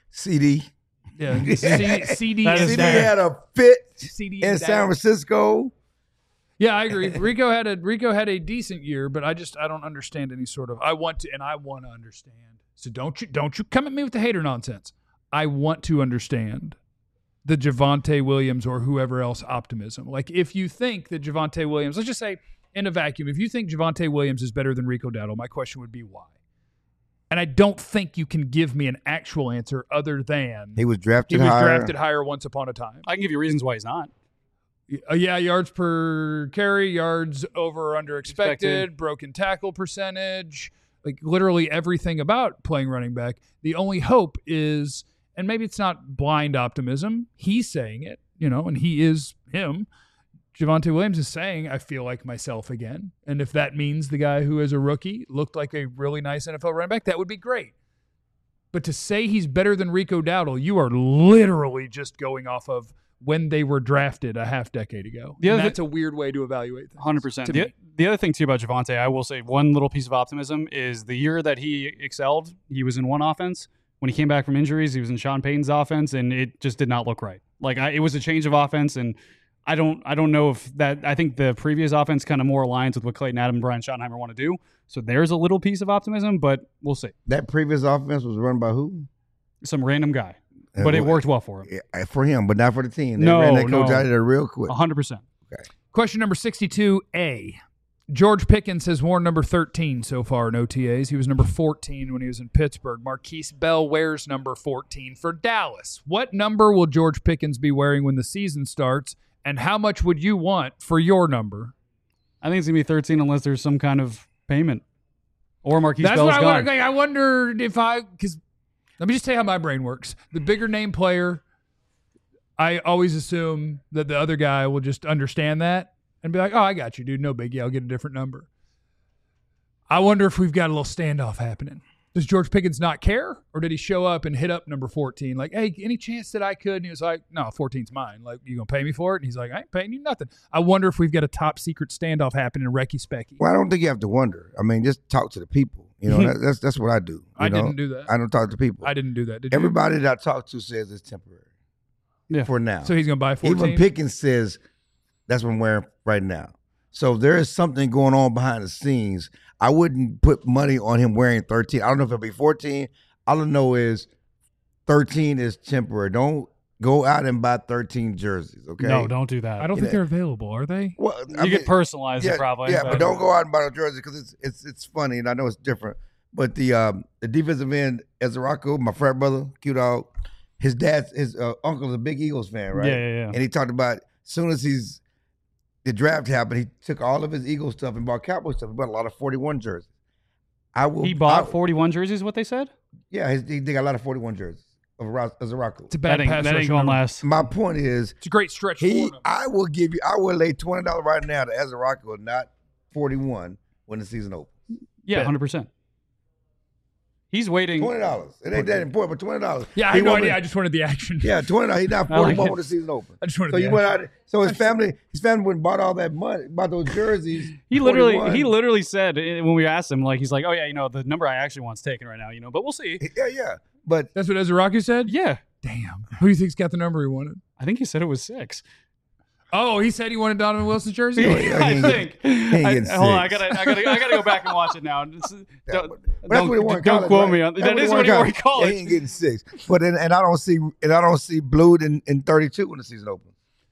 C D. Yeah, C- CD That is is C D down. had a fit C D in is San down. Francisco. Yeah, I agree. Rico had a Rico had a decent year, but I just I don't understand any sort of I want to and I want to understand. So don't you don't you come at me with the hater nonsense. I want to understand the Javonte Williams or whoever else optimism. Like if you think that Javonte Williams, let's just say in a vacuum, if you think Javonte Williams is better than Rico Dowdle, my question would be why? And I don't think you can give me an actual answer other than He was he drafted was higher. drafted higher once upon a time. I can give you reasons why he's not. Uh, yeah, yards per carry, yards over or under expected, Expected. broken tackle percentage, like literally everything about playing running back. The only hope is, and maybe it's not blind optimism, he's saying it, you know, and he is him. Javonte Williams is saying, I feel like myself again. And if that means the guy who is a rookie looked like a really nice N F L running back, that would be great. But to say he's better than Rico Dowdle, you are literally just going off of when they were drafted a half decade ago. The And other that's a weird way to evaluate things. one hundred percent. to The, me. the other thing, too, about Javonte, I will say one little piece of optimism is the year that he excelled, he was in one offense. When he came back from injuries, he was in Sean Payton's offense, and it just did not look right. Like, I, it was a change of offense, and I don't I don't know if that – I think the previous offense kind of more aligns with what Clayton Adam and Brian Schottenheimer want to do. So there's a little piece of optimism, but we'll see. That previous offense was run by who? Some random guy. But it worked well for him. Yeah, for him, but not for the team. They No, ran that coach no. out of there real quick. one hundred percent. Question number sixty-two A. George Pickens has worn number thirteen so far in O T As. He was number fourteen when he was in Pittsburgh. Marquise Bell wears number fourteen for Dallas. What number will George Pickens be wearing when the season starts, and how much would you want for your number? I think it's going to be thirteen unless there's some kind of payment. Or Marquise That's Bell's what I gone. wonder. Like, I wonder if I, because let me just tell you how my brain works. The bigger name player, I always assume that the other guy will just understand that and be like, oh, I got you, dude. No biggie. I'll get a different number. I wonder if we've got a little standoff happening. Does George Pickens not care? Or did he show up and hit up number fourteen? Like, hey, any chance that I could? And he was like, no, fourteen's mine. Like, you going to pay me for it? And he's like, I ain't paying you nothing. I wonder if we've got a top secret standoff happening in Recky Specky. Well, I don't think you have to wonder. I mean, just talk to the people. You know, that, that's that's what I do. You I know? didn't do that. I don't talk to people. I didn't do that. Did you? Everybody that I talk to says it's temporary. Yeah. For now. So he's going to buy fourteen? Even Pickens says that's what I'm wearing right now. So there is something going on behind the scenes. I wouldn't put money on him wearing thirteen. I don't know if it'll be fourteen. All I know is thirteen is temporary. Don't go out and buy thirteen jerseys, okay? No, don't do that. I don't You think know- they're available, are they? Well, You I mean, could personalize yeah, it probably. Yeah, but don't go out and buy a jersey because it's it's it's funny, and I know it's different. But the um, the defensive end, Ezraco, my frat brother, Q Dog, his dad's his uh, uncle's a big Eagles fan, right? Yeah, yeah, yeah. And he talked about as soon as he's the draft happened, he took all of his Eagles stuff and bought Cowboy stuff. He bought a lot of forty-one jerseys. I will. He bought I- forty-one jerseys, what they said? Yeah, his, he, they got a lot of forty-one jerseys of Ezraco. It's a bad That ain't, pass that ain't rush going number. last. My point is, It's a great stretch he. for him. I will give you. I will lay twenty dollars right now to Ezraco, not forty-one when the season opens. Yeah, Bet. one hundred percent. He's waiting. Twenty dollars. It ain't that important, but twenty dollars. Yeah, I had no idea. I just wanted the action. Yeah, twenty dollars. He's not I like forty-one it. when the season opens. I just wanted So the you went action. out. So his family, his family went and bought all that money, bought those jerseys. He literally, forty-one. he literally said eh, when we asked him, like, he's like, "Oh yeah, you know, the number I actually want's taken right now, you know, but we'll see." Yeah, yeah. But That's what Ezraku said? Yeah, Damn. Who do you think's got the number he wanted? I think he said it was six. Oh, he said he wanted Donovan Wilson's jersey? Oh, yeah. I ain't think. ain't I, getting hold on, I six. gotta, I gotta, I gotta go back and watch it now. It's- Yeah, don't but- but that's don't, what he won in don't college, quote right? me on. That's That is won what he in won in Yeah, college. he ain't getting six. But and, and I don't see and I don't see Blue in, in thirty-two when the season opens.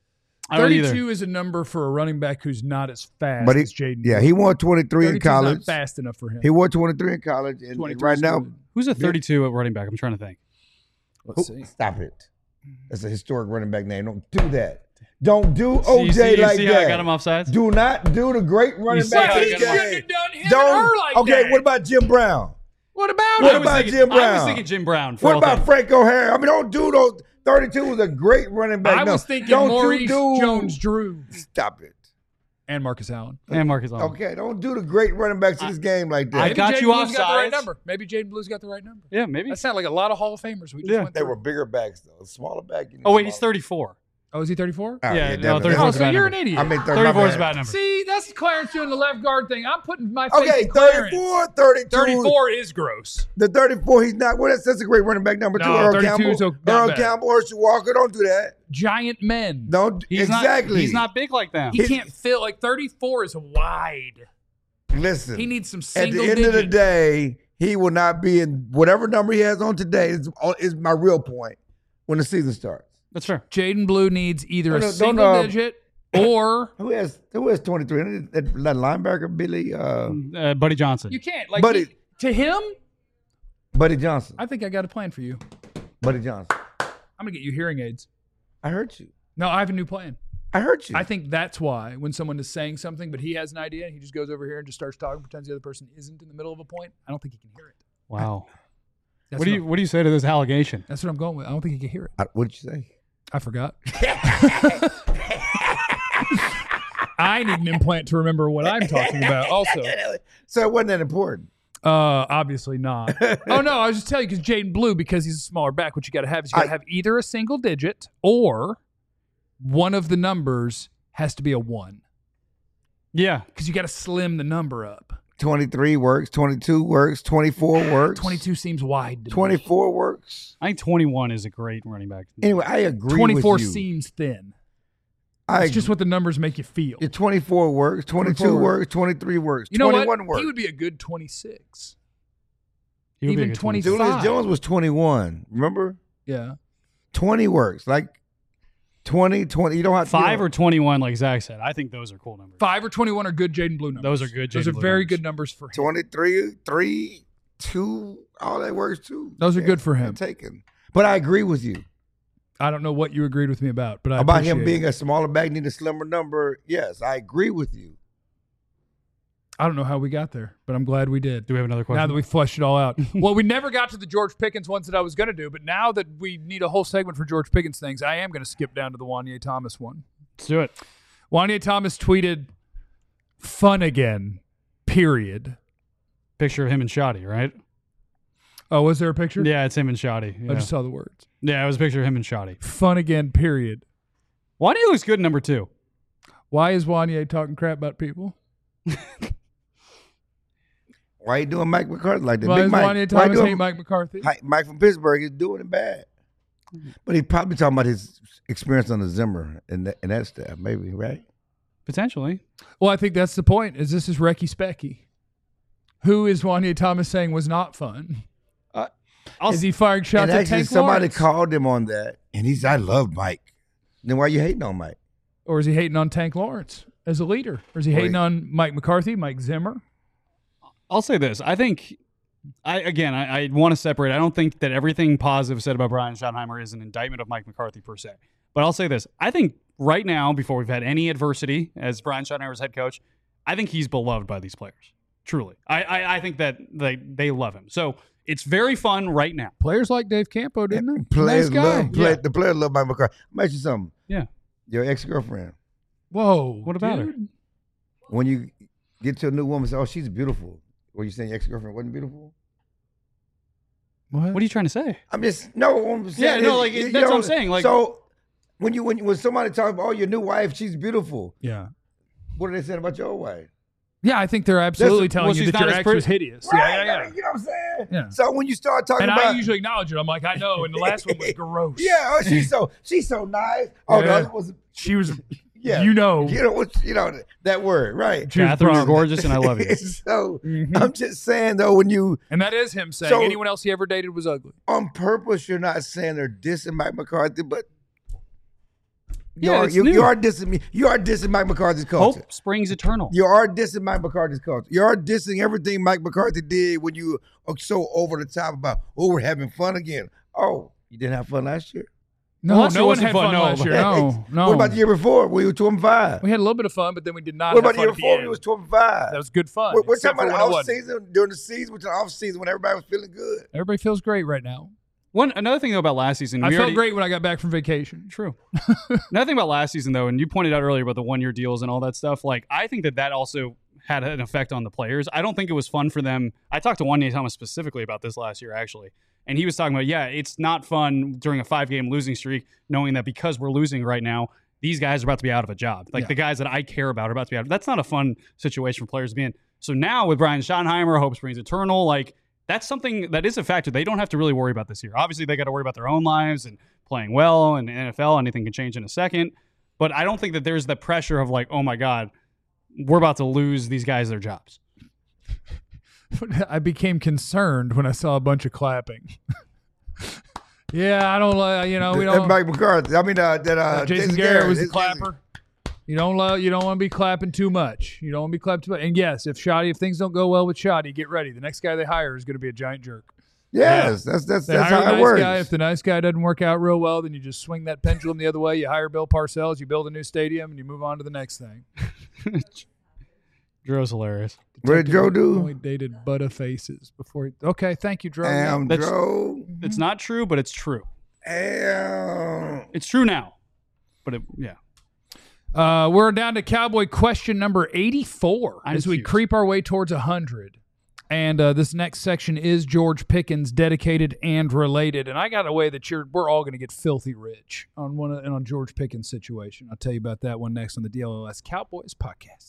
I don't either. thirty-two is a number for a running back who's not as fast But he, as Jaden. yeah, he won twenty-three in thirty-two is not college. fast enough for him. He won twenty-three in college, and, and twenty-three right is now, good. Who's a thirty-two at running back? I'm trying to think. Let's who- see. stop it. That's a historic running back name. Don't do that. Don't do See, you O J see, you like see that. how I got him offsides? Do not do the great running see back. how I of got the him game. Shouldn't have done him and Don't. her like okay, that. what about Jim Brown? What about What I him? was about thinking, Jim I was Brown? thinking Jim Brown. For What all about things. Frank O'Hara? I mean, don't do those. thirty-two was a great running back. I No, was thinking don't Maurice you do, Jones-Drew Stop it. and Marcus Allen. and Marcus Allen? Okay, don't do the great running backs in this game like that. I Maybe got Jaden you Blue's got the right offsides. number. Maybe Jaden Blue's got the right number. Yeah, maybe. That sounded like a lot of Hall of Famers. We just Yeah. went They through. were bigger backs though. A smaller back. you need Oh wait, he's smaller. thirty-four. Oh, is he thirty-four? Oh, Yeah, no, definitely. thirty-four Oh, is a so bad you're an number. idiot. I mean, thirty, thirty-four my is a bad. bad number. See, that's Clarence doing the left guard thing. I'm putting my faith Okay, in Clarence. thirty-four, thirty-two. thirty-four is gross. The thirty-four, he's not. Well, that's, that's a great running back number two. No, Earl thirty-two Campbell. is so- not Earl bad. Campbell, Herschel Walker. Don't do that. Giant men. Don't He's exactly. Not, he's not big like them. He can't fill like thirty-four is wide. Listen. He needs some At single the end of the digit. day, he will not be in whatever number he has on today. Is, is my real point when the season starts. That's fair. Jaden Blue needs either No, a no, don't, single uh, digit or Who has who has twenty-three? That, that linebacker Billy uh, Uh, Buddy Johnson. you can't. Like Buddy- he- to him, Buddy Johnson. I think I got a plan for you. Buddy Johnson. I'm gonna get you hearing aids. I heard you. No, I have a new plan. I heard you. I think that's why when someone is saying something, but he has an idea, and he just goes over here and just starts talking, pretends the other person isn't in the middle of a point. I don't think he can hear it. Wow. That's What do you I'm- What do you say to this allegation? That's what I'm going with. I don't think he can hear it. I, what did you say? I forgot. I need an implant to remember what I'm talking about. Also, So it wasn't that important. uh, obviously not. Oh no, I was just telling you because Jaden Blue, because he's a smaller back, what you got to have is you got to I- have either a single digit or one of the numbers has to be a one Yeah. because you got to slim the number up. twenty-three works. twenty-two works. twenty-four works. twenty-two seems wide. To me. twenty-four works. I think twenty-one is a great running back. Anyway, I agree twenty-four with you. seems thin. I It's just what the numbers make you feel. Yeah, twenty-four works. twenty-two twenty-four works. twenty-three works. You know twenty-one what? works. He would be a good twenty-six. He would be Even a good twenty- twenty-two. Julius five. Jones was twenty-one. Remember? Yeah. twenty works. Like twenty, twenty. You don't have to Five you or twenty-one, like Zach said. I think those are cool numbers. Five or twenty-one are good Jaden Blue numbers. Those are good Those Jaden are Blue very numbers. good numbers for him. twenty-three, three, two. All that works too. Those are Yeah, good for him. Taken. But I agree with you I don't know what you agreed with me about, but I about him appreciate being it. a smaller back, need a slimmer number. Yes, I agree with you. I don't know how we got there, but I'm glad we did. Do we have another question? Now that we fleshed it all out. Well, we never got to the George Pickens ones that I was going to do, but now that we need a whole segment for George Pickens things, I am going to skip down to the Wanye Thomas one. Let's do it. Wanye Thomas tweeted, "Fun again, period." Picture of him and Shoddy, right? Oh, was there a picture? Yeah, it's him and Shoddy. Yeah. I just saw the words. yeah, it was a picture of him and Shoddy. Fun again, period. Wanya looks good in number two. Why is Wanye talking crap about people? Why you doing Mike McCarthy like that? Why Big does Mike. Wanye Why you Thomas doing- hate Mike McCarthy? Hi- Mike from Pittsburgh is doing it bad. But he's probably talking about his experience on the Zimmer and that, and that stuff, maybe, right? Potentially. Well, I think that's the point. Is this is Recky Specky? Who is Wanye Thomas saying was not fun? I'll Is he firing shots and at actually, Tank somebody Lawrence? called him on that, and he's, I love Mike. Then why you hating on Mike? Or is he hating on Tank Lawrence as a leader? Or is he Or hating he- on Mike McCarthy, Mike Zimmer? I'll say this. I think, I again, I, I want to separate. I don't think that everything positive said about Brian Schottenheimer is an indictment of Mike McCarthy per se. But I'll say this. I think right now, before we've had any adversity as Brian Schottenheimer's head coach, I think he's beloved by these players. Truly. I, I, I think that they, they love him. So it's very fun right now. Players like Dave Campo, didn't they? Players nice guy. love play, Yeah. the players love Mike McCarthy. I'll ask you something. Yeah. Your ex girlfriend. Whoa. What about her? dude. When you get to a new woman, say, "Oh, she's beautiful." Were you saying your ex girlfriend wasn't beautiful? What? What are you trying to say? I'm just no. I'm Yeah, saying no, is- like, you that's what know, I'm saying, like- so when you when when somebody talks about, "Oh, your new wife, she's beautiful," Yeah. what are they saying about your old wife? Yeah, I think they're absolutely That's- telling well, you she's that not your as ex pretty- was hideous. Right, Yeah, yeah, yeah. You know what I'm saying? Yeah. So when you start talking And about, I usually acknowledge it. I'm like, I know. And the last one was gross. yeah, oh, she's so she's so nice. Oh, Yeah. the other was She was, yeah, you know. you know what you know that word, right? She was Catherine, you're problem. gorgeous and I love you. so Mhm. I'm just saying though, when you And that is him saying So- anyone else he ever dated was ugly. on purpose, you're not saying they're dissing Mike McCarthy, but you Yeah, are it's you, new. you are dissing me. You are dissing Mike McCarthy's culture. Hope springs eternal. You are dissing Mike McCarthy's culture. You are dissing everything Mike McCarthy did when you are so over the top about, oh, we're having fun again. Oh, you didn't have fun last year? No, Well, last year no one wasn't had fun, fun, no, last but- year. No, no. What about the year before? We were two and five. We had a little bit of fun, but then we did not What have about the fun year at before? the We end. was two and five. That was good fun. We're, we're except talking for about when it off wasn't. season, during the season, which is off season when everybody was feeling good. Everybody feels great right now. One another thing though about last season, I we felt already- great when I got back from vacation. True. Another thing about last season, though, and you pointed out earlier about the one-year deals and all that stuff, like, I think that that also had an effect on the players. I don't think it was fun for them. I talked to Wanye Thomas specifically about this last year, actually, and he was talking about, yeah, it's not fun during a five-game losing streak, knowing that because we're losing right now, these guys are about to be out of a job. Like, Yeah. the guys that I care about are about to be out. That's not a fun situation for players to be in. So now with Brian Schottenheimer, Hope Springs Eternal, like, that's something that is a factor they don't have to really worry about this year. Obviously, they got to worry about their own lives and playing well, and the N F L, anything can change in a second. But I don't think that there's the pressure of like, oh my God, we're about to lose these guys their jobs. I became concerned when I saw a bunch of clapping. yeah, I don't like, you know, we That don't. Mike McCarthy. I mean, uh, that uh, Uh, Jason, Garrett, Garrett was the Jason- clapper. You don't love. You don't want to be clapping too much. You don't want to be clapping too much. And yes, if Shoddy, if things don't go well with Shoddy, get ready. The next guy they hire is going to be a giant jerk. Yes, that's that's They that's hire how a it nice works. guy. If the nice guy doesn't work out real well, then you just swing that pendulum the other way. You hire Bill Parcells, you build a new stadium, and you move on to the next thing. Dro's hilarious. What did Joe do? Only dated Butterfaces before. He, okay, thank you, Drew. Damn, That's- Joe. It's not true, but it's true. Damn. It's true now. But it, yeah. Uh, we're down to Cowboy question number eighty-four I'm as we curious. creep our way towards one hundred. And uh, this next section is George Pickens, dedicated and related. And I got a way that you're we're all going to get filthy rich on one of, and on George Pickens' situation. I'll tell you about that one next on the D L L S Cowboys podcast.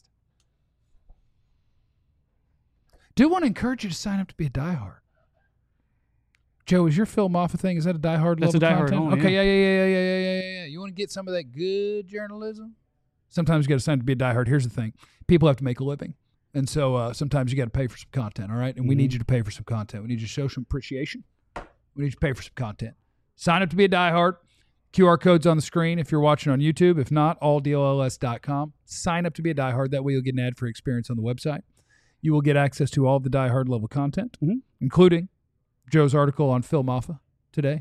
Do want to encourage you to sign up to be a diehard. Joe, is your Phil Moffa thing? Is that a diehard That's a level diehard content? only, Okay, yeah. yeah, yeah, yeah, yeah, yeah, yeah, yeah, yeah. You want to get some of that good journalism? Sometimes you got to sign up to be a diehard. Here's the thing: people have to make a living. And so uh, sometimes you got to pay for some content, all right? And we Mm-hmm. need you to pay for some content. We need you to show some appreciation. We need you to pay for some content. Sign up to be a diehard. Q R code's on the screen if you're watching on YouTube. If not, all D L L S dot com. Sign up to be a diehard. That way you'll get an ad-free experience on the website. You will get access to all of the diehard level content, Mhm. including Joe's article on Phil Moffa today.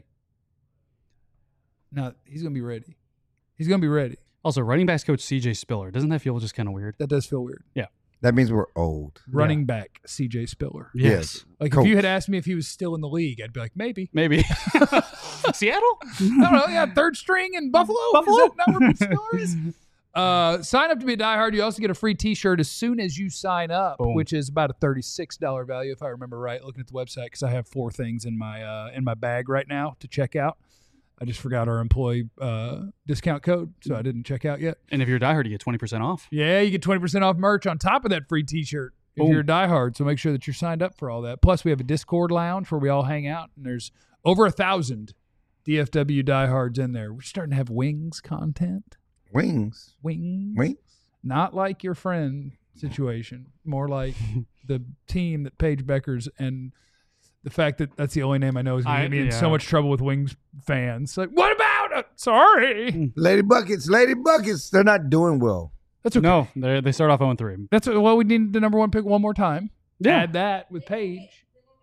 Now, he's going to be ready. He's going to be ready. Also, running backs coach C J Spiller. Doesn't that feel just kind of weird? That does feel weird. That means we're old. Running back C J Spiller. Yes. Like Coach. if you had asked me if he was still in the league, I'd be like, maybe. Maybe. Seattle? I don't know. Yeah, third string in Buffalo. Buffalo? Is that not where Spiller is? Uh, sign up to be a diehard. You also get a free T-shirt as soon as you sign up, Boom. which is about a thirty-six dollars value if I remember right. Looking at the website because I have four things in my uh, in my bag right now to check out. I just forgot our employee uh, discount code, so I didn't check out yet. And if you're a diehard, you get twenty percent off. Yeah, you get twenty percent off merch on top of that free T-shirt if Boom. you're a diehard. So make sure that you're signed up for all that. Plus, we have a Discord lounge where we all hang out, and there's over a thousand D F W diehards in there. We're starting to have wings content. Wings. Wings. Wings. Not like your friend situation. More like the team that Paige Becker's and the fact that that's the only name I know is going I- to get me in yeah. so much trouble with Wings fans. Like, what about it? Sorry. Lady Buckets. Lady Buckets. They're not doing well. That's okay. No, they they start off oh and three. That's what, well, we need the number one pick one more time. Yeah. Add that with Paige.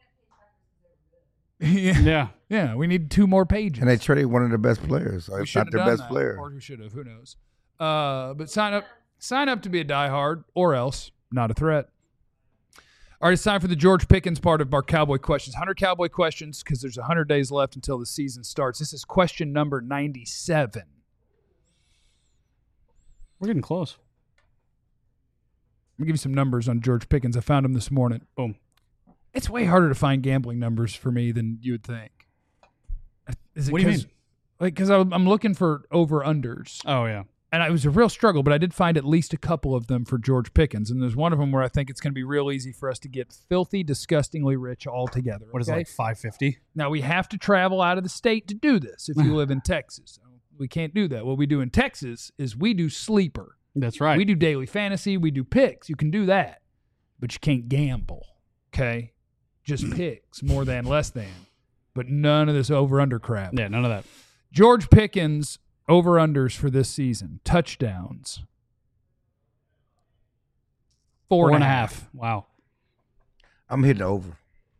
yeah. Yeah. Yeah, we need two more pages. And they traded one of their best players. Or we if should not have their done best that, player. or we should have. Who knows? Uh, but sign up, sign up to be a diehard, or else not a threat. All right, it's time for the George Pickens part of our Cowboy questions. one hundred Cowboy questions because there's one hundred days left until the season starts. This is question number ninety-seven. We're getting close. I'm gonna give you some numbers on George Pickens. I found them this morning. Boom. It's way harder to find gambling numbers for me than you would think. Is it What do you 'cause- mean? Like, because I'm looking for over unders. Oh, yeah. And it was a real struggle, but I did find at least a couple of them for George Pickens. And there's one of them where I think it's going to be real easy for us to get filthy, disgustingly rich all together. What is it, okay? like five fifty? Now, we have to travel out of the state to do this if you live in Texas. We can't do that. What we do in Texas is we do sleeper. That's right. We do daily fantasy. We do picks. You can do that, but you can't gamble, okay? Just picks, more than, less than. But none of this over-under crap. Yeah, none of that. George Pickens over-unders for this season. Touchdowns. Four, Four and a half. Wow. I'm hitting over.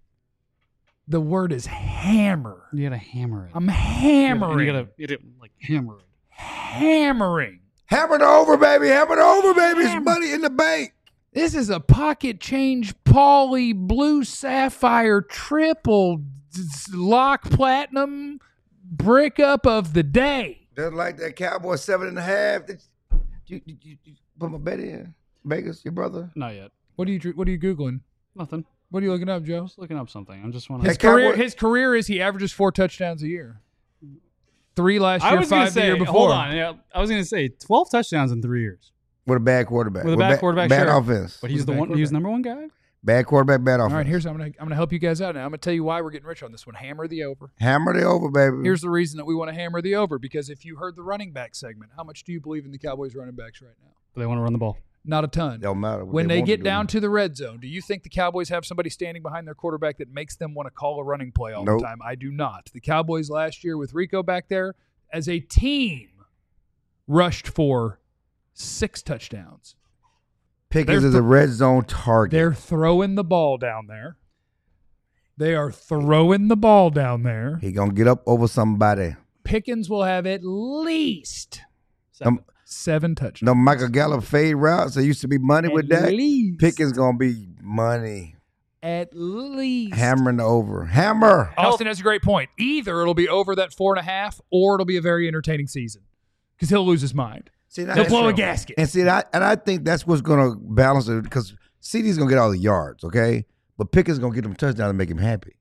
The word is hammer. You gotta hammer it. I'm hammering. You gotta, you gotta like hammer it. hammering. Hammer it over, baby. Hammer it over, baby. It's money in the bank. This is a pocket change Pauly blue sapphire triple d- lock platinum brick up of the day. Just like that Cowboy seven and a half. Did you, you, you, you put my bet in? Vegas, your brother? Not yet. What are you dr- what are you googling? Nothing. What are you looking up, Joe? Just looking up something. I'm just want His That career Cowboy- his career is he averages four touchdowns a year. Three last I year, was gonna five the say. year before. Hold on. Yeah, I was gonna say twelve touchdowns in three years. With a bad quarterback. With a bad ba- quarterback, Bad sure. offense. But he's Who's the the one. bad He's number one guy. Bad quarterback, bad offense. All right, here's I'm gonna I'm gonna help you guys out now. I'm gonna tell you why we're getting rich on this one. Hammer the over. Hammer it over, baby. Here's the reason that we want to hammer the over, because if you heard the running back segment, how much do you believe in the Cowboys running backs right now? They want to run the ball. Not a ton. Don't matter. what When they want get do. down to the red zone, do you think the Cowboys have somebody standing behind their quarterback that makes them want to call a running play all Nope. the time? I do not. The Cowboys last year with Rico back there, as a team, rushed for six touchdowns. Pickens they're is a red zone target. They're throwing the ball down there. They are throwing the ball down there. He gonna get up over somebody. Pickens will have at least Seven. Um, seven touchdowns. No Michael Gallup fade routes. There used to be money with At that. least. Pickens gonna be money. At least. Hammering over. Hammer. Austin has a great point. Either it'll be over that four and a half, or it'll be a very entertaining season because he'll lose his mind. See, now He'll that's blow a true. gasket. And see, that, and I think that's what's gonna balance it because C D's gonna get all the yards, okay? But Pickens gonna get them touchdowns and make him happy.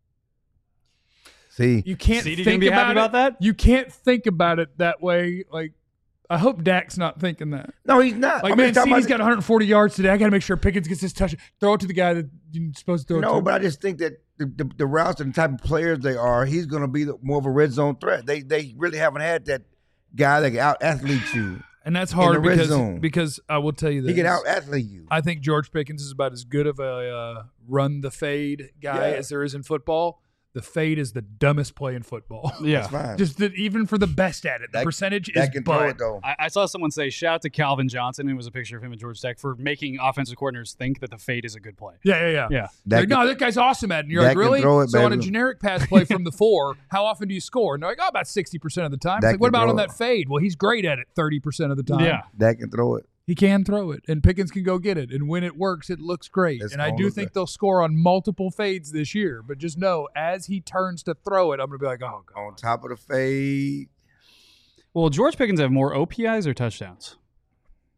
See, You can't C D think gonna be about, happy it. about that? You can't think about it that way. Like, I hope Dak's not thinking that. no, he's not. Like, I mean, man, he's talking C D's about- got one hundred forty yards today. I got to make sure Pickens gets his touch. Throw it to the guy that you're supposed to throw it No, to. but I just think that the, the, the routes and the type of players they are, he's going to be the, more of a red zone threat. They they really haven't had that guy that can out athlete you. And that's hard the red because, zone. because I will tell you this. He can out athlete you. I think George Pickens is about as good of a uh, run the fade guy Yeah. as there is in football. The fade is the dumbest play in football. Yeah. That's fine. Just that even for the best at it, the That- percentage is that can throw bud. it though. I, I saw someone say, shout out to Calvin Johnson. It was a picture of him at Georgia Tech for making offensive coordinators think that the fade is a good play. Yeah, yeah, yeah. Yeah. That Like, can- no, that guy's awesome at it. And you're that like, can really? throw it, So on a baby. generic pass play from the four, how often do you score? And they're like, oh, about sixty percent of the time. It's That like, what can about throw on it. that fade? Well, he's great at it thirty percent of the time. Yeah. That can throw it. He can throw it, and Pickens can go get it. And when it works, it looks great. It's and I all do of think that. they'll score on multiple fades this year. But just know, as he turns to throw it, I'm going to be like, oh, God. On top of the fade. Well, George Pickens have more O P Is or touchdowns?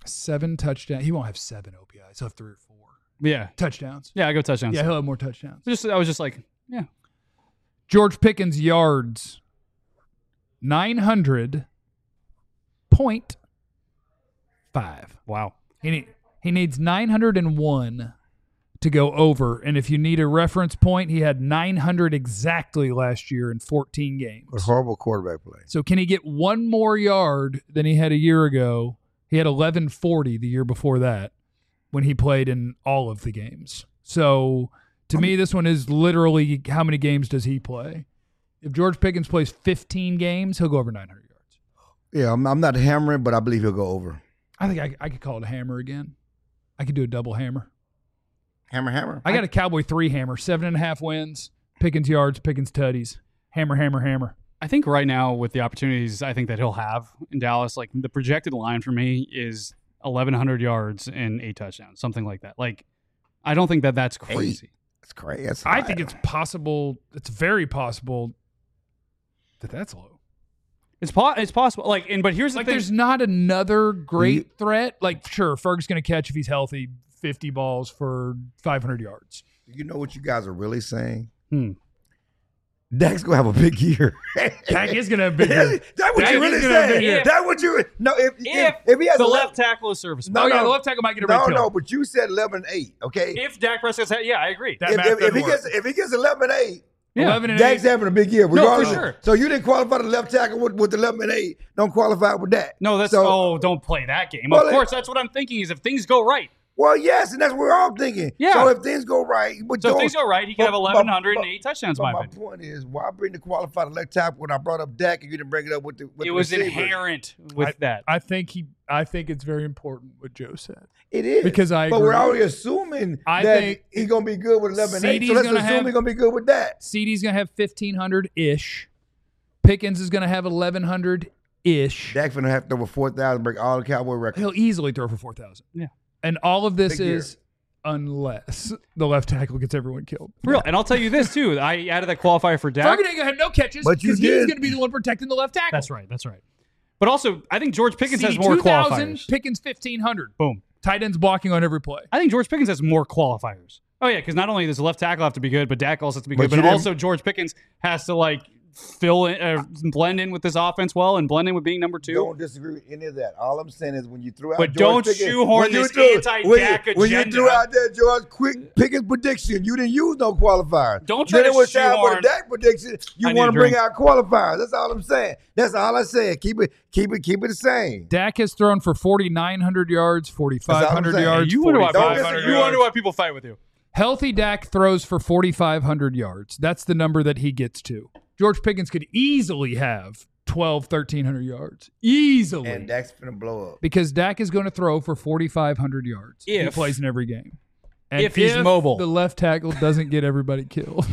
Seven touchdowns. He won't have seven O P Is. He'll have three or four Yeah. touchdowns. Yeah, I go touchdowns. Yeah, he'll have more touchdowns. Just I was just like, yeah. George Pickens yards nine hundred point five. Wow. He need, he needs nine hundred one to go over, and if you need a reference point, he had nine hundred exactly last year in fourteen games. A horrible quarterback play. So can he get one more yard than he had a year ago? He had eleven forty the year before that when he played in all of the games. So to me, this one is literally how many games does he play? If George Pickens plays fifteen games, he'll go over nine hundred yards. Yeah, I'm, I'm not hammering, but I believe he'll go over. I think I, I could call it a hammer again. I could do a double hammer. Hammer, hammer. I got a Cowboy three hammer, seven and a half wins, Pickens yards, Pickens tutties, hammer, hammer, hammer. I think right now with the opportunities I think that he'll have in Dallas, like the projected line for me is eleven hundred yards and eight touchdowns, something like that. Like, I don't think that that's crazy. That's crazy. That's I high. think it's possible. It's very possible that that's low. It's po- it's possible. Like, and but here's the Like, thing. there's not another great You- threat. Like, sure, Ferg's going to catch if he's healthy fifty balls for five hundred yards. You know what you guys are really saying? Hmm. Dak's gonna have a big year. Dak is going to have big. That's what Dak you is really gonna have a big saying. year. That's what you. No, if if, If if he has the eleven, left tackle is serviceable. No, Oh, yeah, no. the left tackle might get everybody no, killed. no, but you said eleven and eight. Okay. If Dak Prescott's, yeah, I agree. That if, math if, if doesn't he work. gets if he gets eleven and eight, Yeah. eleven and Dak's eight. having a big year. for Regardless. sure. So you didn't qualify the left tackle with, with eleven and eight. Don't qualify with that. No, that's so, oh, don't play that game. Well, of course, that's what I'm thinking. Is if things go right. Well, yes, and that's what we're all thinking. Yeah. So if things go right, but So if don't- things go right, he can but- have but- eleven hundred but- eight touchdowns. But My my opinion. point is, why bring the qualified left tackle when I brought up Dak and you didn't bring it up with the with It the was receivers? inherent with that. I think he. I think it's very important what Joe said. It is Because I But we're agree. already assuming I that think he's gonna be good with eleven and eight. CeeDee's So let's gonna assume have- he's gonna be good with that. C D's going to have fifteen hundred ish. Pickens is going to have eleven hundred ish. Dak's gonna have to over four thousand, break all the Cowboy records. He'll easily throw for four thousand. Yeah. And all of this Big year. is unless the left tackle gets everyone killed. For real. And I'll tell you this too. I added that qualifier for Dak. Ferguson ain't going to have no catches But you because he's did. going to be the one protecting the left tackle. That's right. That's right. But also, I think George Pickens C D has more two thousand, qualifiers. Pickens fifteen hundred. Boom. Tight ends blocking on every play. I think George Pickens has more qualifiers. Oh yeah, because not only does the left tackle have to be good, but Dak also has to be But good. you But didn't- also George Pickens has to like fill in, uh, blend in with this offense well, and blend in with being number two. Don't disagree with any of that. All I'm saying is when you threw out But George don't Pickens, shoehorn when you this threw- anti-Dak when you- When you agenda. threw out that George quick Pickens prediction, you didn't use no qualifiers. Don't try then to it was time for shoehorn- the Dak prediction. You I need want a to bring drink. out qualifiers. That's all I'm saying. That's all I said. Keep it, keep it, keep it the same. Dak has thrown for forty-nine hundred yards, forty-five hundred saying. yards, you wonder why Don't people, disagree. you wonder why people fight with you. Healthy Dak throws for forty-five hundred yards. That's the number that he gets to. George Pickens could easily have twelve, thirteen hundred yards. Easily. And Dak's finna blow up. because Dak is going to throw for forty-five hundred yards. he If- plays in every game. And if he's mobile. the left tackle doesn't get everybody killed.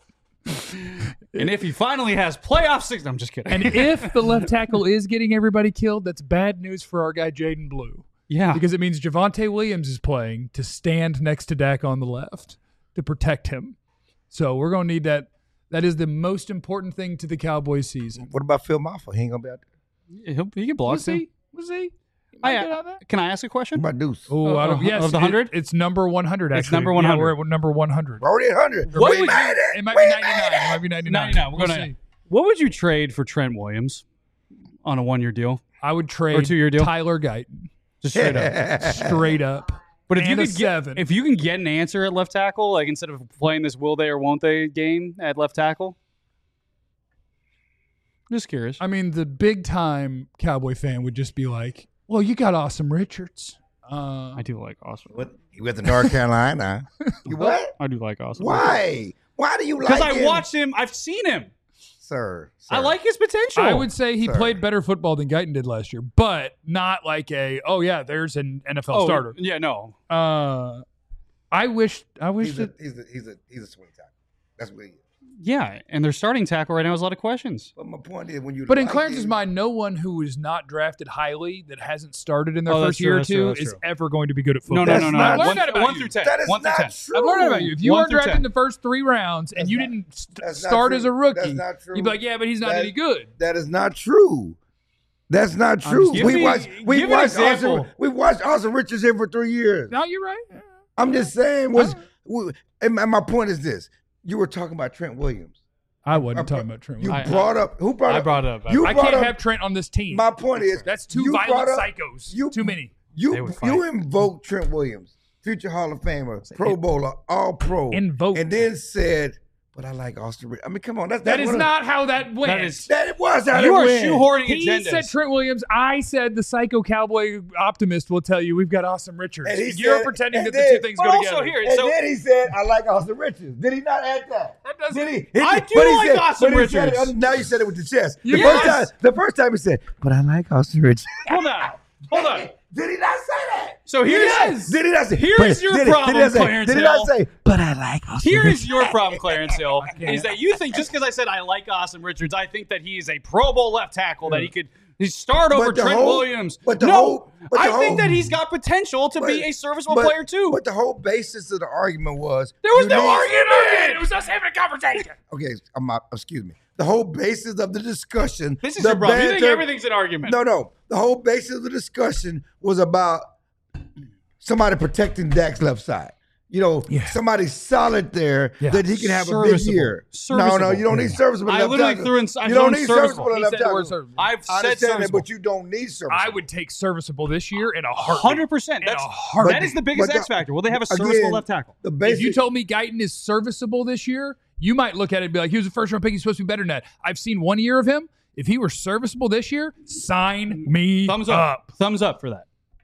And if he finally has playoff six, I'm just kidding. and if the left tackle is getting everybody killed, that's bad news for our guy Jaden Blue. yeah, Because it means Javonte Williams is playing to stand next to Dak on the left to protect him. So we're going to need that. That is the most important thing to the Cowboys season. What about Phil Maffa? He ain't gonna be out there. He'll, he can block Was too. he? Was he? He I, might get out there. can I ask a What question? about Deuce? Oh, Uh, out of, of- yes, of the it- one hundred? it's number one hundred. It's Actually, number Yeah, one hundred. we're at number one hundred. We're already at one hundred. What we would you- made it. It might We be made ninety-nine. It it. might be ninety-nine. ninety-nine. We'll go We'll to see. What would you trade for Trent Williams on a one-year deal? I would trade two-year deal? Tyler Guyton Just straight up. straight up. But if you And a could get seven. if you can get an answer at left tackle, like instead of playing this will they or won't they game at left tackle, just curious. I mean, the big time Cowboy fan would just be like, "Well, you got Awesome Richards." Uh, I do like Austin. With, with the North Carolina. You what? I do like Austin. Why? Why do you like Because I him? watched him. I've seen him. Sir, I sir. like his potential. I would say he Sir. played better football than Guyton did last year, but not like a oh yeah, there's an N F L oh, starter. Yeah, no. Uh, I wish I wish He's a, that he's a he's a he's a swing tackle. That's what he is. Yeah, and their starting tackle right now has a lot of questions. But my point is when you But in like Clarence's him- mind, no one who is not drafted highly that hasn't started in their Oh, that's first true, year or that's true, two that's is true. ever going to be good at No, football. no, That's no, no. not- no. I've learned One, that about one you. through ten. That is one through not ten. true. I've learned that about you. If you One weren't through drafted ten. in the first three rounds and That's you not- didn't st- that's not start true. as a rookie, That's not true. you'd be like, yeah, but he's not That- any good. That is not true. That's not true. Give We me- watched. We give an watched. example. Austin, we watched Austin Richards here for three years. No, you're right. I'm just saying. Was we, and my my point is this: you were talking about Trent Williams. I wasn't I talking brought- about Trent. You Williams. I- brought up. Who brought I up? brought it up. I- You I brought can't up, have Trent on this team. My point is That's two you violent brought up- psychos. you- Too many. They You would fight. you invoked Trent Williams, future Hall of Famer, Pro Bowler, All Pro, Invoked. and then said, "But I like Austin." Richards. I mean, come on, that's That that's is one of- not how that went. That is- That it was how You it are went. shoehorning He agendas. said Trent Williams. I said the psycho cowboy optimist will tell you we've got Austin Richards. And he You're said- pretending and that then- the two things but go also together. here, And so then he said, "I like Austin Richards." Did he not add that? That doesn't- Did he? I Did- do but he like said- Austin but he said Richards. it- now you said it with the chest. The Yes. first time, the first time he said, "But I like Austin Richards." hold on, hold on. Did he not say that? So here's Yes. Did he not say? Here's but- your did he- problem, did he not say, Clarence Did he not Hill. say? But I like Austin Here Richards. is your problem, Clarence Hill, is that you think just because I said I like Austin Richards, I think that he is a Pro Bowl left tackle that he could he start over But the Trent whole- Williams. but the no, whole- but the I whole- think that he's got potential to be But- a serviceable but- player too. But the whole basis of the argument was there was you no need- argument. It was us having a conversation. Okay, I'm not, excuse me. The whole basis of the discussion. This is the your problem. You think banter- everything's an argument. No, no. The whole basis of the discussion was about somebody protecting Dak's left side. You know, Yeah. somebody solid there Yeah. that he can have a big Serviceable. year. No, Serviceable. no, you don't need serviceable. I left literally tackle. threw in- I You threw don't in need serviceable. serviceable He left said the word tackle. serviceable. I've I said understand that, serviceable. but you don't need serviceable. I would take serviceable this year in a heartbeat. Hundred percent. In a That's heartbeat. that is the biggest But the- X factor. Will they have a again, serviceable left tackle? The If basic, you told me Guyton is serviceable this year, you might look at it and be like, he was a first round pick. He's supposed to be better than that. I've seen one year of him. If he were serviceable this year, sign me Thumbs up. up. Thumbs up for that.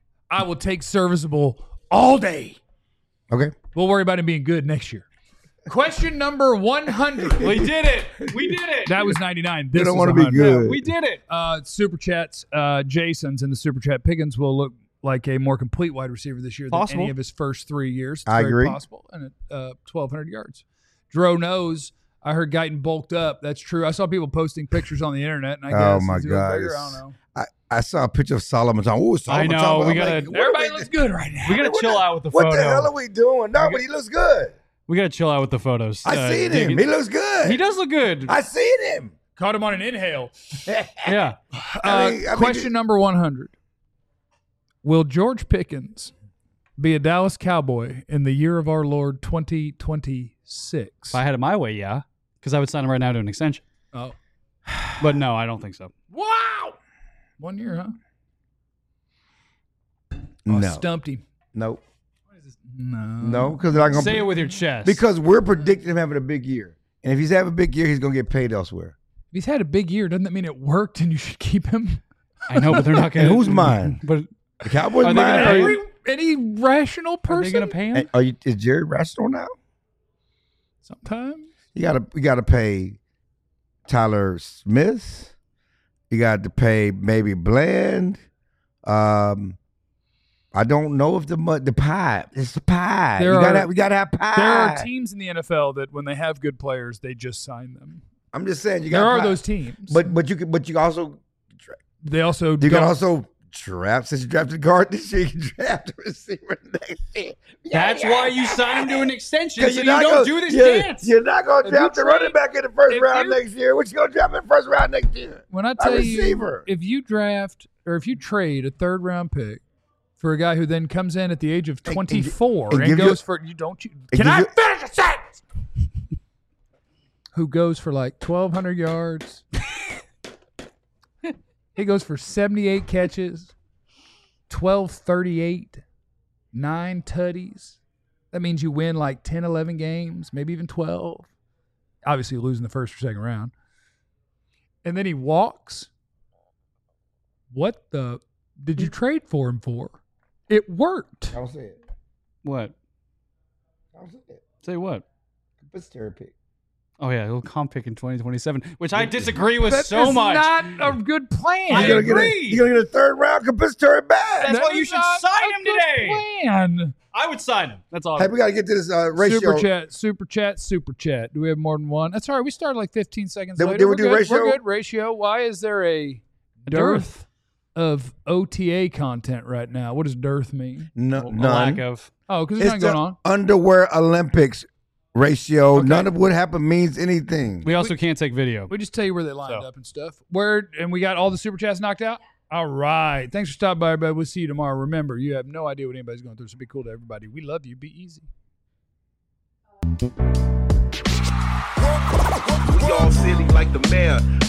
I will take serviceable all day. okay. We'll worry about him being good next year. Question number one hundred. We did it. We did it. That was ninety-nine. This You don't is want to be one hundred. good. We did it. Uh, super chats. Uh, Jason's in the super chat. Pickens will look like a more complete wide receiver this year Possible. than any of his first three years. It's I very agree. Possible, and at uh, twelve hundred yards. Dro knows. I heard Guyton bulked up. That's true. I saw people posting pictures on the internet, and I Oh, guess my he's a little God, bigger. I it's- don't know. I, I saw a picture of Solomon Thomas. Oh, Solomon know, Thomas. we I'm gotta- like, what are Everybody we- looks good right now. We gotta what chill the- out with the What photo. the hell are we doing? No, but he looks good. We gotta chill out with the photos. I Uh, seen dig him. it. He looks good. He does look good. I seen him. Caught him on an inhale. yeah. Uh, I mean- I mean, question it- number one hundred. Will George Pickens be a Dallas Cowboy in the year of our Lord twenty twenty-six? If I had it my way, yeah, because I would sign him right now to an extension. Oh. But no, I don't think so. Wow. One year, huh? Oh, No. stumped him. Nope. No. No, because they're not gonna Say it with your chest. because we're predicting him having a big year, and if he's having a big year, he's gonna get paid elsewhere. If he's had a big year, doesn't that mean it worked and you should keep him? I know, but they're not going And to. who's mine? But The Cowboys Are they gonna mind. pay- Every, any rational are person? they going to pay him? Hey, are you? Is Jerry rational now? Sometimes. You gotta you gotta pay Tyler Smith. You got to pay maybe Bland. Um, I don't know if the mu- the pie. It's the pie. There you gotta are- have, we gotta have pie. There are teams in the N F L that when they have good players, they just sign them. I'm just saying you got. There are pie. those teams. But but you can but you also they also you don't. can also draft since you drafted a guard this year. You can draft a receiver next year. That's why you sign him to an extension, so Because you you're not don't gonna, do this you're, dance. You're not going to If you draft the trade- running back in the first if round you- next year. What you going to draft in the first round next year? When I A tell you, receiver. if you draft or if you trade a third round pick for a guy who then comes in at the age of And- and- twenty-four and and, give you- goes for you don't you and can give I you- finish a sentence? Who goes for like twelve hundred yards? He goes for seventy-eight catches, twelve thirty-eight, nine tutties. That means you win like ten, eleven games, maybe even twelve. Obviously, losing the first or second round. And then he walks. What the did you trade for him for? It worked. Don't say it. What? Don't say it. Say what? It's therapy. Oh yeah, he'll comp pick in twenty twenty-seven, which I disagree with That so is much. not a good plan. I You're gonna get a, agree. you're gonna get a third round compensatory back. That's That why is you should not sign a him good today. Plan. I would sign him. That's all. Hey, we got to get to this uh, ratio. Super chat, super chat, super chat. Do we have more than one? That's all right. We started like fifteen seconds Did we- later. did we We're do good. ratio? We're good. Ratio. Why is there a A dearth of O T A content right now? What does dearth mean? No, A none. lack of. Oh, because there's It's nothing the going on. underwear Olympics ratio. Okay. None of what happened means anything. We also can't take video. We just tell you where they lined So. up and stuff. Where and we got all the super chats knocked out. All right. Thanks for stopping by, everybody. We'll see you tomorrow. Remember, you have no idea what anybody's going through, so be cool to everybody. We love you. Be easy. We all silly like the mayor.